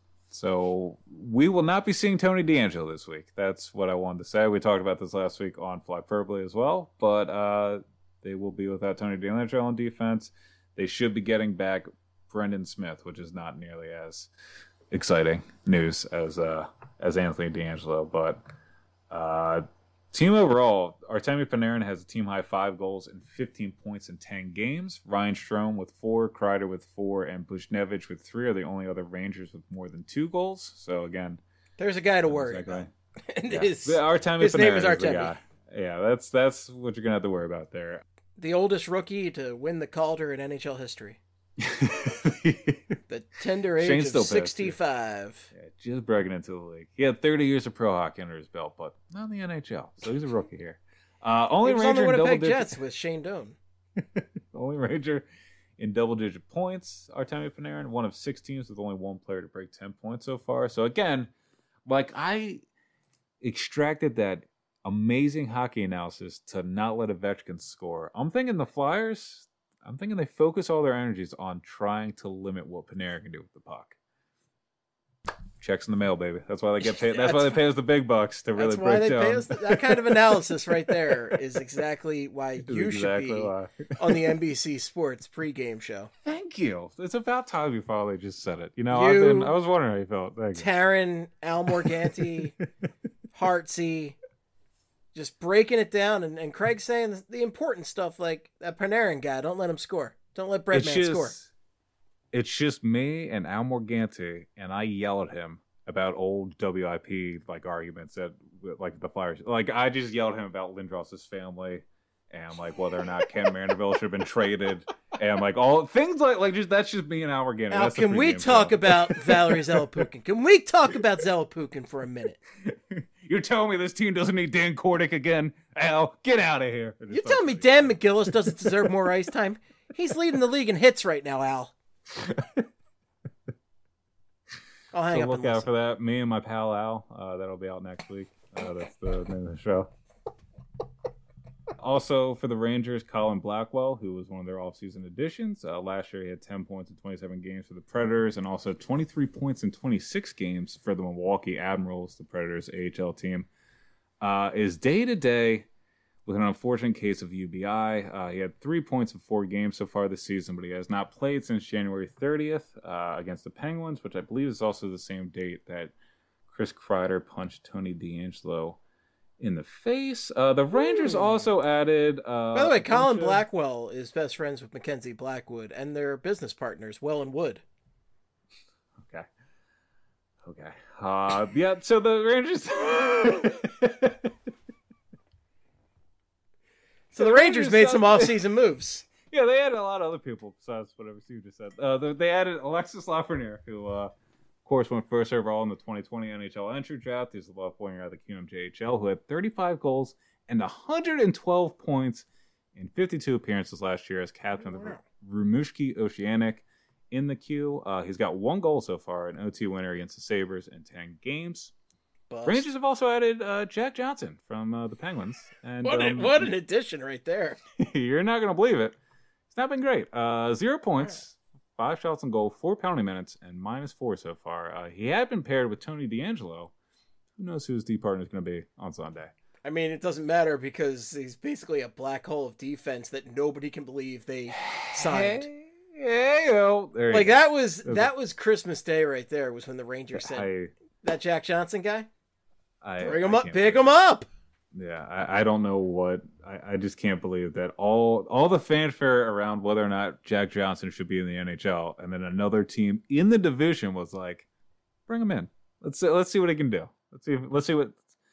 So we will not be seeing Tony DeAngelo this week. That's what I wanted to say. We talked about this last week on Fly Purpley as well, but uh, they will be without Tony DeAngelo on defense. They should be getting back Brendan Smith, which is not nearly as exciting news as uh, as Anthony DeAngelo, but. Uh, team overall, Artemi Panarin has a team-high five goals and fifteen points in ten games. Ryan Strome with four, Kreider with four, and Buchnevich with three are the only other Rangers with more than two goals. So, again... There's a guy to worry exactly. about. And yeah. his, Artemi his Panarin name is is Artemi. the guy. Yeah, that's, that's what you're going to have to worry about there. The oldest rookie to win the Calder in N H L history. The tender age Shane's of sixty-five. Yeah, just breaking into the league. He had thirty years of pro hockey under his belt, but not in the N H L. So he's a rookie here. Uh, only he was Ranger on the in double Winnipeg digits. Jets with Shane Doan. Only Ranger in double-digit points. Artemi Panarin, one of six teams with only one player to break ten points so far. So again, like I extracted that amazing hockey analysis to not let Ovechkin score. I'm thinking the Flyers. I'm thinking they focus all their energies on trying to limit what Panarin can do with the puck. Checks in the mail, baby. That's why they get paid. That's, that's why they pay us the big bucks to really that's why break they down. Pay us the, that kind of analysis right there is exactly why you exactly should be why. on the N B C Sports pregame show. Thank you. It's about time you finally just said it. You know, You, I've been. I was wondering how you felt. Thank you. Taryn, Al Morganti, Hartsey, just breaking it down, and, and Craig saying the important stuff like that Panarin guy. Don't let him score. Don't let Breadman score. It's just me and Al Morganti, and I yell at him about old W I P like arguments that like the Flyers. Like I just yelled at him about Lindros's family and like whether or not Ken Mandeville should have been traded and like all things like like just that's just me and Al Morganti. Al, can we talk show. about Valerie Zelepukin? Can we talk about Zelepukin for a minute? You're telling me this team doesn't need Dan Kordic again? Al, get out of here. You're telling me Dan McGillis doesn't deserve more ice time? He's leading the league in hits right now, Al. I'll hang so up look and out listen. for that. Me and my pal Al. Uh, that'll be out next week. Uh, that's the name of the show. Also for the Rangers, Colin Blackwell, who was one of their offseason additions. Uh, last year he had ten points in twenty-seven games for the Predators and also twenty-three points in twenty-six games for the Milwaukee Admirals, the Predators A H L team. Uh, is day-to-day with an unfortunate case of U B I. Uh, he had three points in four games so far this season, but he has not played since January thirtieth uh, against the Penguins, which I believe is also the same date that Chris Kreider punched Tony DeAngelo in the face. Uh, the Rangers Ooh. also added... Uh, By the way, Colin of... Blackwell is best friends with Mackenzie Blackwood, and they're business partners, Well and Wood. Okay. Okay. Uh, yeah, so the Rangers... So the Rangers made some off-season moves. Yeah, they added a lot of other people besides whatever Steve just said. Uh, they, they added Alexis Lafreniere, who, uh, of course, went first overall in the twenty twenty N H L entry draft. He's the left winger of the Q M J H L, who had thirty-five goals and one hundred twelve points in fifty-two appearances last year as captain of the Rimouski Oceanic in the Q. Uh, he's got one goal so far, an O T winner against the Sabres in ten games. Bust. Rangers have also added uh, Jack Johnson from uh, the Penguins. And what, um, a, what an addition right there. You're not going to believe it. It's not been great. Uh, zero points, five shots on goal, four penalty minutes, and minus four so far. Uh, he had been paired with Tony DeAngelo. Who knows who his D partner is going to be on Sunday? I mean, it doesn't matter because he's basically a black hole of defense that nobody can believe they signed. Hey, hey, yo. There like you go. that was that was Christmas Day right there. Was when the Rangers said I, that Jack Johnson guy. I, Bring him I up, pick him up. Yeah, I, I don't know what I, I just can't believe that all all the fanfare around whether or not Jack Johnson should be in the N H L, and then another team in the division was like, bring him in. Let's see, let's see what he can do. Let's see. Let's see what.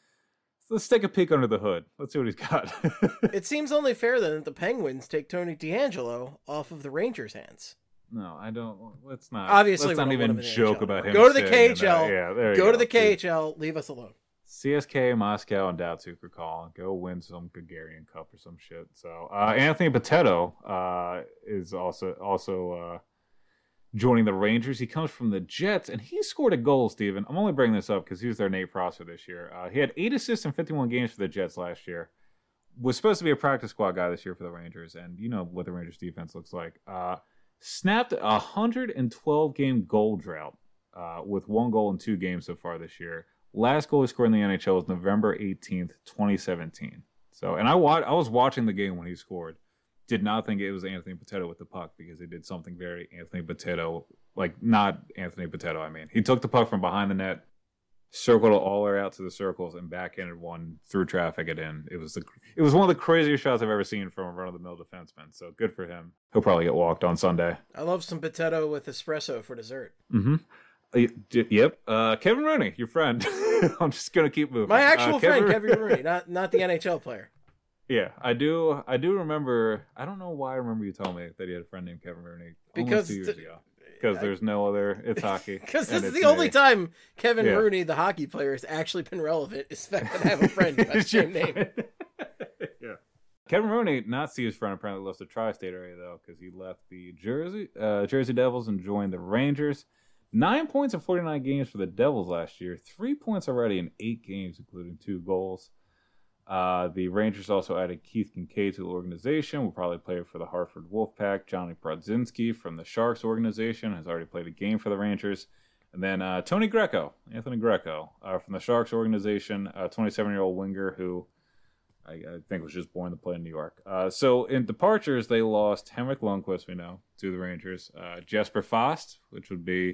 Let's take a peek under the hood. Let's see what he's got. It seems only fair then that the Penguins take Tony DeAngelo off of the Rangers' hands. No, I don't. Let's not. Obviously, let's not even joke about him. Go to the K H L. Yeah, there you go, go to the K H L. Leave us alone. C S K, Moscow, and Datsuk are calling. Go win some Gagarin Cup or some shit. So uh, Anthony Potato uh, is also also uh, joining the Rangers. He comes from the Jets, and he scored a goal, Steven. I'm only bringing this up because he was their Nate Prosser this year. Uh, he had eight assists in fifty-one games for the Jets last year. Was supposed to be a practice squad guy this year for the Rangers, and you know what the Rangers defense looks like. Uh, snapped a one hundred twelve game goal drought uh, with one goal in two games so far this year. Last goal he scored in the N H L was November eighteenth, twenty seventeen. So, and I wa- I was watching the game when he scored. Did not think it was Anthony Potato with the puck because he did something very Anthony Potato, like not Anthony Potato, I mean. He took the puck from behind the net, circled it all the way out to the circles, and backhanded one through traffic it in. It was the it was one of the craziest shots I've ever seen from a run-of-the-mill defenseman. So good for him. He'll probably get walked on Sunday. I love some potato with espresso for dessert. Mm-hmm. Yep. Uh, Kevin Rooney, your friend. I'm just gonna keep moving. My actual uh, friend, Kevin... Kevin Rooney, not not the N H L player. Yeah, I do. I do remember. I don't know why I remember you telling me that he had a friend named Kevin Rooney because two years th- ago. Because there's no other. It's hockey. Because this is the only me. time Kevin yeah. Rooney, the hockey player, has actually been relevant. Is the fact that I have a friend by the same name. Yeah. Kevin Rooney, not see his friend, apparently left the tri-state area though, because he left the Jersey uh, Jersey Devils and joined the Rangers. Nine points in forty-nine games for the Devils last year. Three points already in eight games, including two goals. Uh, the Rangers also added Keith Kincaid to the organization. Will probably play for the Hartford Wolfpack. Johnny Brodzinski from the Sharks organization has already played a game for the Rangers. And then uh, Tony Greco, Anthony Greco, uh, from the Sharks organization, a twenty-seven-year-old winger who I, I think was just born to play in New York. Uh, so in departures, they lost Henrik Lundqvist, we know, to the Rangers. Uh, Jesper Fast, which would be,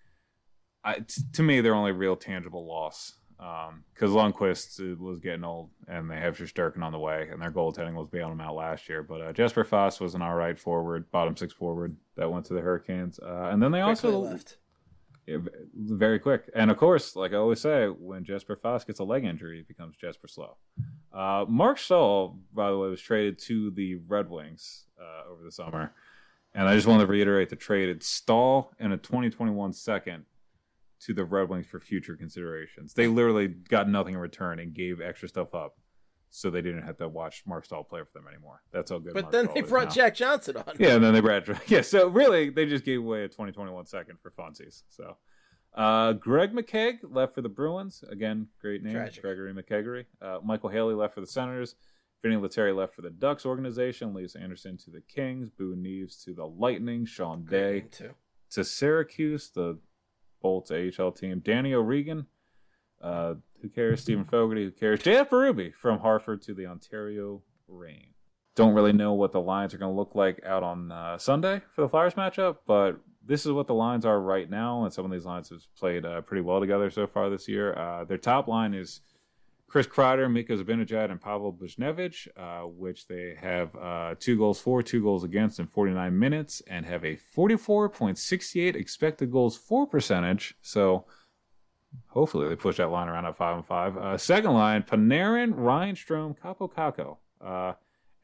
I, t- to me, their only real tangible loss. Because um, Lundqvist was getting old, and they have Shesterkin on the way, and their goaltending was bailing them out last year. But uh, Jesper Fast was an all right forward, bottom six forward that went to the Hurricanes. Uh, and then they Quickly also left. Yeah, very quick. And of course, like I always say, when Jesper Fast gets a leg injury, it becomes Jesper Slow. Uh, Mark Stahl, by the way, was traded to the Red Wings uh, over the summer. And I just want to reiterate the trade. It's Stahl and a twenty twenty-one second to the Red Wings for future considerations. They literally got nothing in return and gave extra stuff up so they didn't have to watch Mark Stahl play for them anymore. That's how good But Mark then Stahl they is brought now. Jack Johnson on. Yeah, and then they brought yeah. So really, they just gave away a twenty twenty-one second for funsies. So uh, Greg McKegg left for the Bruins. Again, great name, Tragic. Gregory McKeggery. Uh, Michael Haley left for the Senators. Vinny Lettieri left for the Ducks organization. Lisa Anderson to the Kings. Boone Neves to the Lightning. Sean Great Day name, too. to Syracuse, the Bolts A H L team. Danny O'Regan, uh, who cares? Stephen Fogarty, who cares? J F Berube from Hartford to the Ontario Reign. Don't really know what the lines are going to look like out on uh, Sunday for the Flyers matchup, but this is what the lines are right now, and some of these lines have played uh, pretty well together so far this year. Uh, their top line is Chris Kreider, Mika Zibanejad, and Pavel Buchnevich, uh, which they have uh, two goals for, two goals against in forty-nine minutes, and have a forty-four point six eight expected goals for percentage. So hopefully they push that line around at five and five. Uh, second line, Panarin, Ryan Strome, Capo Caco. Uh, and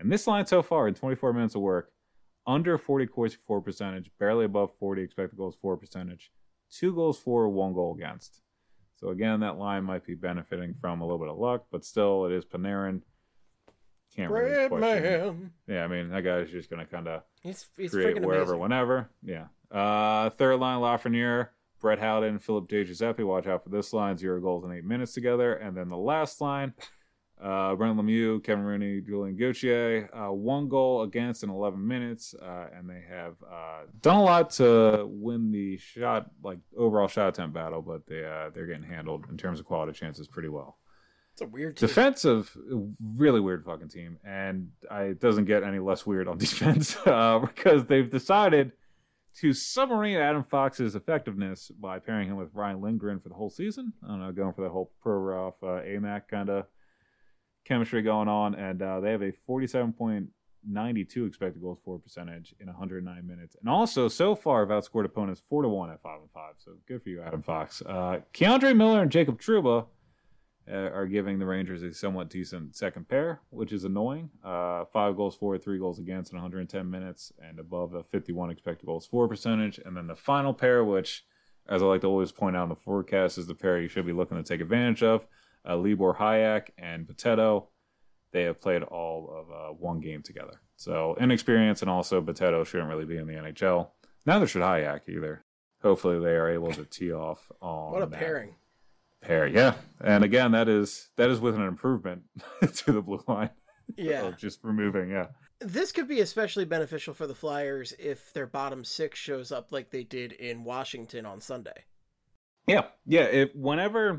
And this line so far in twenty-four minutes of work, under forty Corsi for percentage, barely above forty expected goals for percentage, two goals for, one goal against. So again, that line might be benefiting from a little bit of luck, but still, it is Panarin. Can't really question. Man. Yeah, I mean, that guy's just going to kind of He's, he's create freaking wherever, amazing. whenever. Yeah. Uh, third line, Lafreniere, Brett Howden, Philip De Giuseppe. Watch out for this line. Zero goals in eight minutes together. And then the last line, uh, Brent Lemieux, Kevin Rooney, Julian Gauthier. Uh, one goal against in eleven minutes. Uh, and they have uh, done a lot to win the shot, like overall shot attempt battle, but they, uh, they're getting handled in terms of quality chances pretty well. It's a weird team. Defensive, really weird fucking team. And I, it doesn't get any less weird on defense uh, because they've decided to submarine Adam Fox's effectiveness by pairing him with Ryan Lindgren for the whole season. I don't know, going for the whole Provorov, uh, A M A C kind of chemistry going on. And uh, they have a forty-seven point nine two expected goals for percentage in one hundred nine minutes. And also, so far, have outscored opponents four to one at five and five. So good for you, Adam Fox. Uh, Keandre Miller and Jacob Trouba Uh, are giving the Rangers a somewhat decent second pair, which is annoying. Uh, five goals for, three goals against in one hundred ten minutes, and above a fifty-one expected goals for percentage. And then the final pair, which, as I like to always point out in the forecast, is the pair you should be looking to take advantage of. Uh, Libor Hayek and Boteto. They have played all of uh, one game together. So inexperience, and also Boteto shouldn't really be in the N H L. Neither should Hayek either. Hopefully they are able to tee off on What a that pairing. pair, yeah. And again, that is that is with an improvement to the blue line. Yeah. Of just removing, yeah. This could be especially beneficial for the Flyers if their bottom six shows up like they did in Washington on Sunday. Yeah, yeah. If whenever,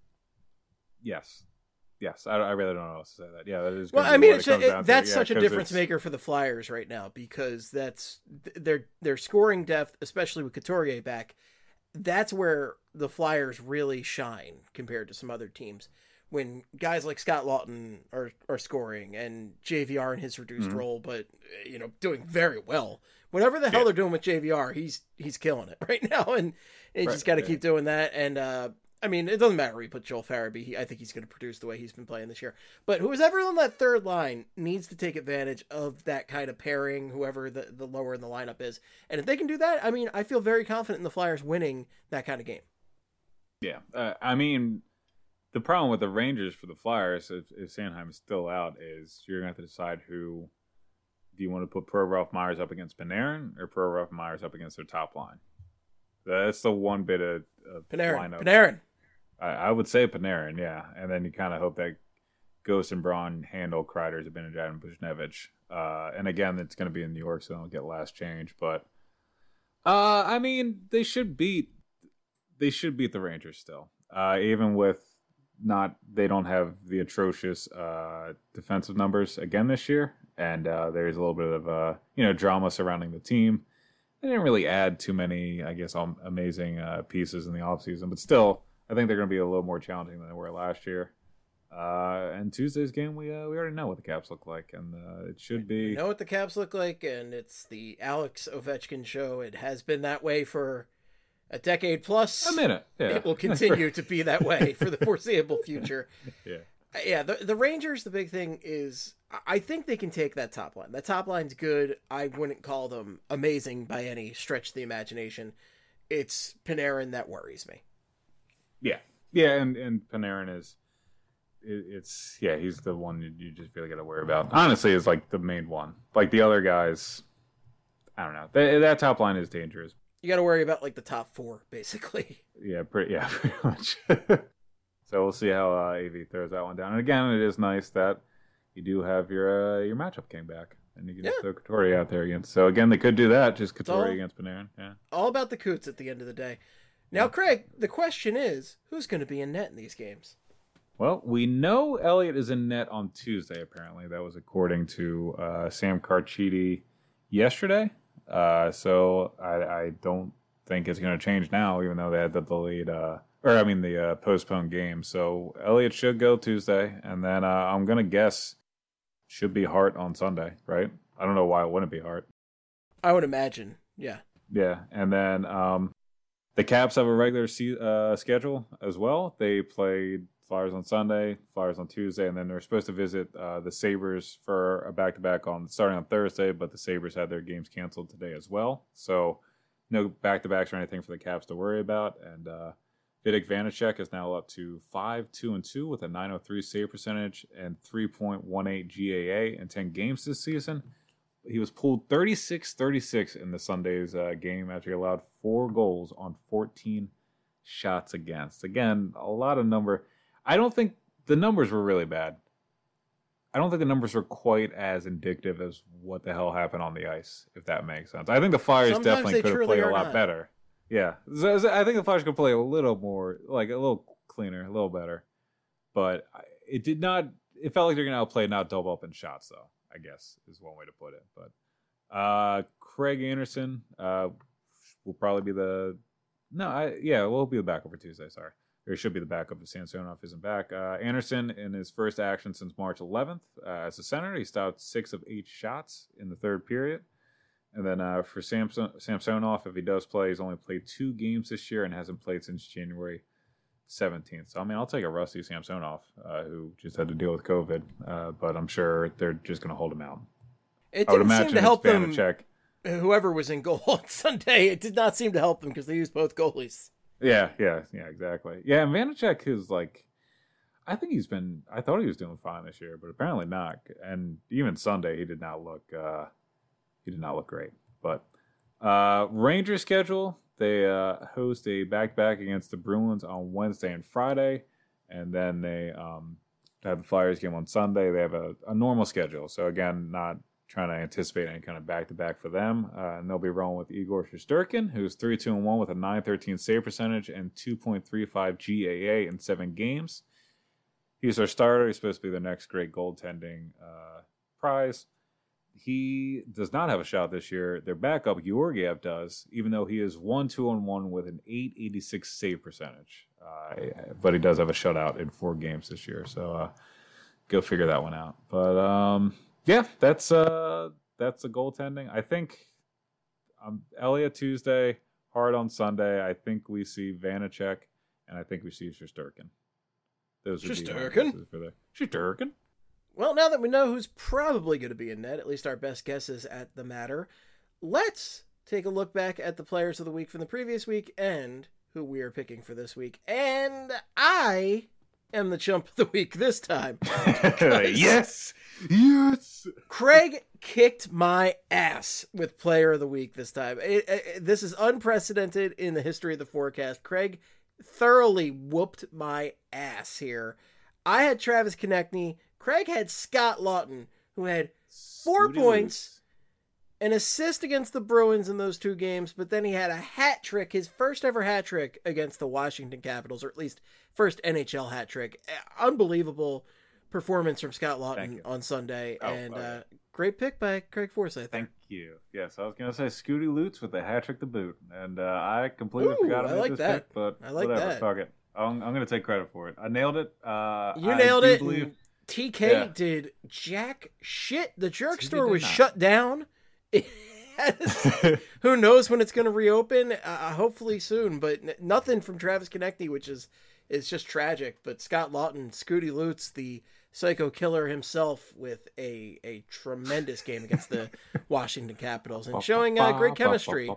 yes, yes. I, I really don't know how to say that. Yeah, that is. Well, gonna I be mean, what it's, it comes it, down to. that's Yeah, such a 'cause difference it's- maker for the Flyers right now because that's their their scoring depth, especially with Couturier back. That's where the Flyers really shine compared to some other teams. When guys like Scott Lawton are, are scoring and J V R in his reduced Mhm. role, but you know, doing very well. Whatever the hell Yeah. they're doing with J V R, he's he's killing it right now, and you Right, just got to yeah. keep doing that. And uh, I mean, it doesn't matter where you put Joel Farabee. He, I think he's going to produce the way he's been playing this year. But whoever on that third line needs to take advantage of that kind of pairing, whoever the, the lower in the lineup is. And if they can do that, I mean, I feel very confident in the Flyers winning that kind of game. Yeah, uh, I mean, the problem with the Rangers for the Flyers, if, if Sanheim is still out, is you're going to have to decide who do you want to put Provorov Myers up against Panarin or Provorov Myers up against their top line. That's the one bit of, of Panarin. lineup. Panarin. I, I would say Panarin, yeah, and then you kind of hope that Ghost and Braun handle Kreider, Zibanejad, and Buchnevich. Uh, and again, it's going to be in New York, so they'll get last change. But uh, I mean, they should beat they should beat the Rangers still, uh, even with not they don't have the atrocious uh, defensive numbers again this year, and uh, there's a little bit of uh, you know drama surrounding the team. They didn't really add too many, I guess, um, amazing uh, pieces in the offseason, but still, I think they're going to be a little more challenging than they were last year. Uh, and Tuesday's game, we uh, we already know what the Caps look like, and uh, it should be. We know what the Caps look like, and it's the Alex Ovechkin show. It has been that way for a decade plus. A minute, yeah. It will continue to be that way for the foreseeable future. Yeah. Yeah, the the Rangers, the big thing is I think they can take that top line. That top line's good. I wouldn't call them amazing by any stretch of the imagination. It's Panarin that worries me. Yeah. Yeah, and, and Panarin is, it, it's, yeah, he's the one you, you just really got to worry about. Honestly, is like the main one. Like the other guys, I don't know. That, that top line is dangerous. You got to worry about like the top four, basically. Yeah, pretty, yeah, pretty much. So we'll see how uh, A V throws that one down. And again, it is nice that you do have your uh, your matchup king back, and you can just Yeah. throw Couturier out there against. So again, they could do that, just Couturier all- against Panarin. Yeah. All about the Coots at the end of the day. Now, Craig, the question is, who's going to be in net in these games? Well, we know Elliott is in net on Tuesday. Apparently, that was according to uh, Sam Carchidi yesterday. Uh, so I, I don't think it's going to change now, even though they had the delayed. Uh, Or, I mean, the uh, postponed game. So, Elliott should go Tuesday. And then uh, I'm going to guess should be Hart on Sunday, right? I don't know why it wouldn't be Hart. I would imagine, yeah. Yeah. And then um, the Caps have a regular se- uh, schedule as well. They played Flyers on Sunday, Flyers on Tuesday, and then they're supposed to visit uh, the Sabres for a back-to-back on starting on Thursday, but the Sabres had their games canceled today as well. So no back-to-backs or anything for the Caps to worry about. And uh, Vitek Vanacek is now up to five two and two with a nine oh three save percentage and three point one eight G A A in ten games this season. He was pulled thirty-six thirty-six in the Sunday's uh, game after he allowed four goals on fourteen shots against. Again, a lot of number. I don't think the numbers were really bad. I don't think the numbers were quite as indicative as what the hell happened on the ice, if that makes sense. I think the Flyers Sometimes definitely could have played a lot not. better. Yeah. So, so I think the Flyers could play a little more, like a little cleaner, a little better. But it did not, it felt like they're going to outplay, not double up in shots, though, I guess is one way to put it. But uh, Craig Anderson uh, will probably be the, no, I yeah, we'll be the backup for Tuesday, sorry. Or he should be the backup if Samsonov isn't back. Uh, Anderson, in his first action since March eleventh uh, as a center, he stopped six of eight shots in the third period. And then uh, for Samson, Samsonov, if he does play, he's only played two games this year and hasn't played since January seventeenth. So, I mean, I'll take a rusty Samsonov, uh, who just had to deal with COVID. Uh, but I'm sure they're just going to hold him out. It I would didn't imagine seem to help it's them. Vanacek. Whoever was in goal on Sunday, it did not seem to help them because they used both goalies. Yeah, yeah, yeah, exactly. Yeah, and Vanacek is like, I think he's been, I thought he was doing fine this year, but apparently not. And even Sunday, he did not look, uh, he did not look great. But uh, Rangers schedule, they uh, host a back-to-back against the Bruins on Wednesday and Friday, and then they um, have the Flyers game on Sunday. They have a, a normal schedule, so again, not trying to anticipate any kind of back-to-back for them. Uh, and they'll be rolling with Igor Shesterkin, who's three two and one with a nine thirteen save percentage and two point three five G A A in seven games. He's their starter. He's supposed to be the next great goaltending uh, prize. He does not have a shot this year. Their backup, Georgiev, does, even though he is one two and one with an eight eighty-six save percentage. Uh, but he does have a shutout in four games this year. So uh, go figure that one out. But, um... yeah, that's uh, that's the goaltending. I think um, Elliott Tuesday, Hart on Sunday. I think we see Vanacek, and I think we see Shesterkin. Those would Shesterkin? be for the Shesterkin. Well, now that we know who's probably going to be in net, at least our best guesses at the matter, let's take a look back at the players of the week from the previous week and who we are picking for this week. And I am the chump of the week this time. Yes! Yes! Craig kicked my ass with player of the week this time. It, it, this is unprecedented in the history of the forecast. Craig thoroughly whooped my ass here. I had Travis Konechny. Craig had Scott Laughton, who had four Scooty points, Loops. an assist against the Bruins in those two games, but then he had a hat trick, his first ever hat trick against the Washington Capitals, or at least first N H L hat trick. Unbelievable performance from Scott Laughton on Sunday, Oh, and oh, yeah. uh, great pick by Craig Forsyth. Thank you. Yes, I was going to say Scooty Lutz with the hat trick to boot, and uh, I completely Ooh, forgot I about like this that. pick, but I like whatever, that. fuck it. I'm, I'm going to take credit for it. I nailed it. Uh, You I nailed do it. Believe, and T K Yeah. did jack shit. The jerk T K store did was not. shut down. It has- who knows when it's going to reopen? Uh, hopefully soon. But n- nothing from Travis Konechny, which is is just tragic. But Scott Laughton, Scooty Lutz, the psycho killer himself, with a a tremendous game against the Washington Capitals and showing uh, great chemistry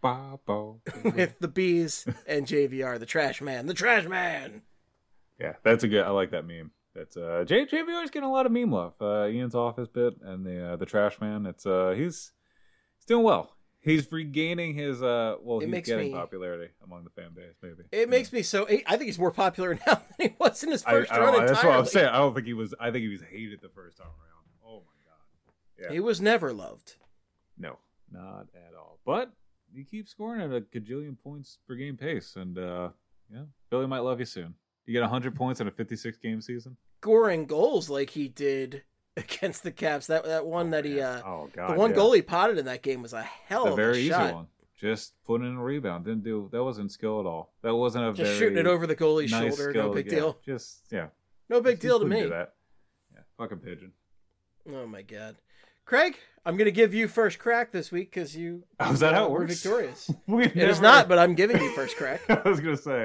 with the Bees and J V R, the trash man, the trash man. Yeah, that's a good. I like that meme. That's uh, J JVR is getting a lot of meme love. Uh, Ian's office bit and the uh, the trash man. It's uh, he's he's doing well. He's regaining his uh, well, It he's makes getting me- popularity among the fan base. Maybe It makes me so. I think he's more popular now than he was in his I, first I run don't, that's what entirely. I'm saying. I don't think he was. I think he was hated the first time around. Oh my god. Yeah. He was never loved. No, not at all. But he keeps scoring at a gajillion points per game pace, and uh, yeah, Billy might love you soon. You get one hundred points in a fifty-six game season. Scoring goals like he did against the Caps. That that one that he, uh, oh god, the one yeah. goal he potted in that game was a hell the of very a easy shot. one. Just putting in a rebound. Didn't do that. Wasn't skill at all. That wasn't a Just very shooting it over the goalie's nice shoulder. skill No big to get. deal. Just yeah, No big Just deal to couldn't me. do that. Yeah, fucking pigeon. Oh my god, Craig, I'm gonna give you first crack this week because you. Oh, is that how it were works? victorious. We It is not, but I'm giving you first crack. I was gonna say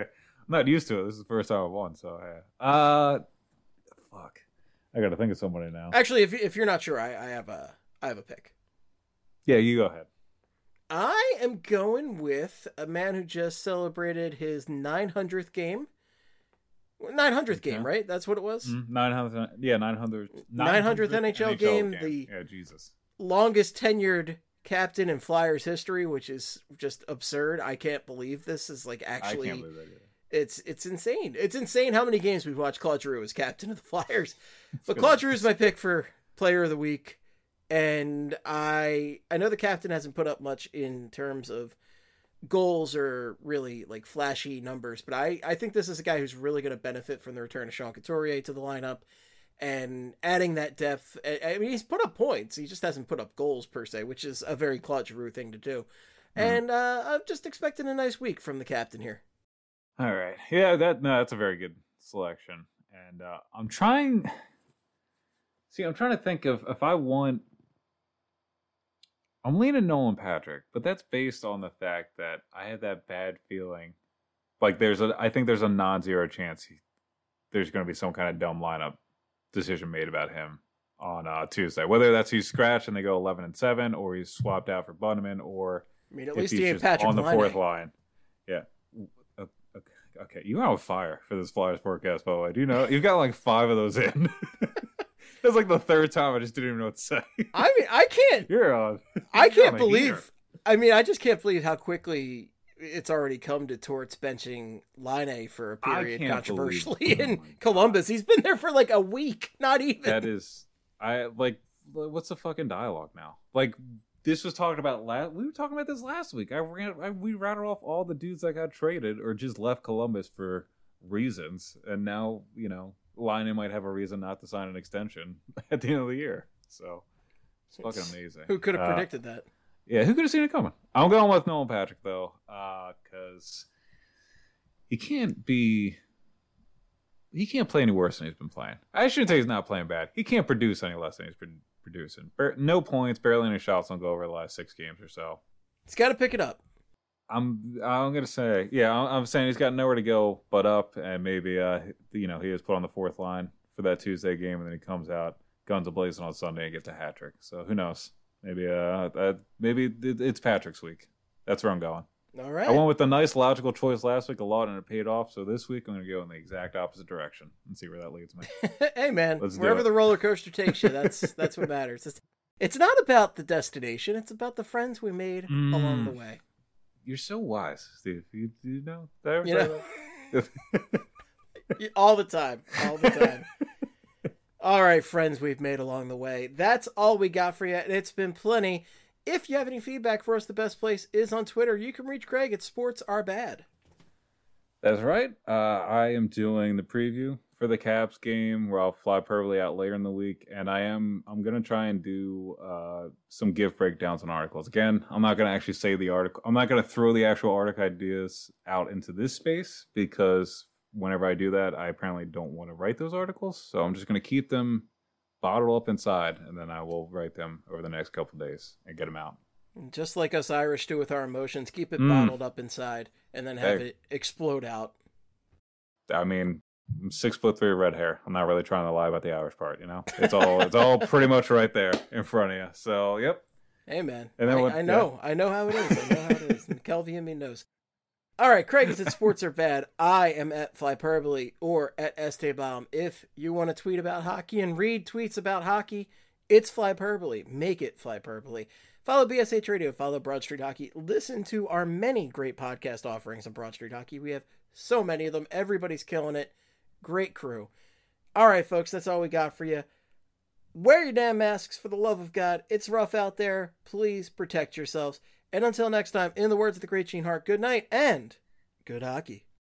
not used to it. This is the first time I've won, so yeah. Uh, fuck. I got to think of somebody now. Actually, if if you're not sure, I, I have a I have a pick. Yeah, you go ahead. I am going with a man who just celebrated his nine hundredth game. nine hundredth Okay. game, right? That's what it was? Mm, nine hundred, yeah, nine hundred. nine hundredth N H L game, the- Yeah, Jesus. Longest tenured captain in Flyers history, which is just absurd. I can't believe this is like actually... I can't believe that either. It's it's insane. It's insane how many games we've watched Claude Giroux as captain of the Flyers. But good. Claude Giroux is my pick for player of the week. And I I know the captain hasn't put up much in terms of goals or really like flashy numbers, but I, I think this is a guy who's really going to benefit from the return of Sean Couturier to the lineup and adding that depth. I, I mean, he's put up points. He just hasn't put up goals per se, which is a very Claude Giroux thing to do. Mm. And uh, I'm just expecting a nice week from the captain here. All right. Yeah, that no, that's a very good selection. And uh, I'm trying... See, I'm trying to think of if I want... I'm leaning Nolan Patrick, but that's based on the fact that I have that bad feeling. Like, there's a, I think there's a non-zero chance he, there's going to be some kind of dumb lineup decision made about him on uh, Tuesday. Whether that's he's scratched and they go eleven and seven, or he's swapped out for Bunneman, or I mean, at if least he's he ain't just Patrick on the Laine. fourth line. Yeah. Okay, okay, you are on fire for this Flyers forecast, by the way. Do you know you've got like five of those in? That's like the third time I just didn't even know what to say. I mean, I can't. You're on. I You're can't on a believe. heater. I mean, I just can't believe how quickly it's already come to Torts benching Laine for a I period can't controversially believe- oh in my God. Columbus. He's been there for like a week, not even. That is, I like. What's the fucking dialogue now? Like, this was talking about last. We were talking about this last week. I ran. I, we rattled off all the dudes that got traded or just left Columbus for reasons, and now you know, Laine might have a reason not to sign an extension at the end of the year. So it's fucking amazing. Who could have Uh, predicted that? Yeah, who could have seen it coming? I'm going with Nolan Patrick though, because he can't be. He can't play any worse than he's been playing. I shouldn't say he's not playing bad. He can't produce any less than he's been producing. Bar- no points, barely any shots on goal over the last six games or so. He's got to pick it up. I'm I'm gonna say yeah. I'm, I'm saying he's got nowhere to go but up, and maybe uh you know he is put on the fourth line for that Tuesday game, and then he comes out guns a-blazing on Sunday and gets a hat trick. So who knows? Maybe uh, uh maybe it, it's Patrick's week. That's where I'm going. All right. I went with the nice logical choice last week a lot, and it paid off. So this week I'm going to go in the exact opposite direction and see where that leads me. Hey man, Let's do wherever it. the roller coaster takes you, that's that's what matters. It's, it's not about the destination; it's about the friends we made Mm. along the way. You're so wise, Steve. You, you know? Did I ever You say know? that? All the time, all the time. All right, friends we've made along the way. That's all we got for you, and it's been plenty. If you have any feedback for us, the best place is on Twitter. You can reach Craig at Sports Are Bad. That's right. Uh, I am doing the preview for the Caps game where I'll fly Purley out later in the week, and I am I'm gonna try and do uh, some gift breakdowns on articles. Again, I'm not gonna actually say the article. I'm not gonna throw the actual article ideas out into this space because whenever I do that, I apparently don't want to write those articles. So I'm just gonna keep them bottled up inside, and then I will write them over the next couple of days and get them out. Just like us Irish do with our emotions, keep it Mm. bottled up inside and then have Hey. it explode out. I mean, I'm six foot three, red hair. I'm not really trying to lie about the Irish part, you know. It's all it's all pretty much right there in front of you. So, yep. Hey, man. And then I, what- I know. I know how it is. I know how it is. And Kelvin me knows. All right, Craig is at Sports Are Bad. I am at Flyperbole or at Estebaum. If you want to tweet about hockey and read tweets about hockey, it's Flyperbole. Make it Flyperbole. Follow B S H Radio. Follow Broad Street Hockey. Listen to our many great podcast offerings on Broad Street Hockey. We have so many of them. Everybody's killing it. Great crew. All right, folks, that's all we got for you. Wear your damn masks for the love of God. It's rough out there. Please protect yourselves. And until next time, in the words of the great Gene Hart, good night and good hockey.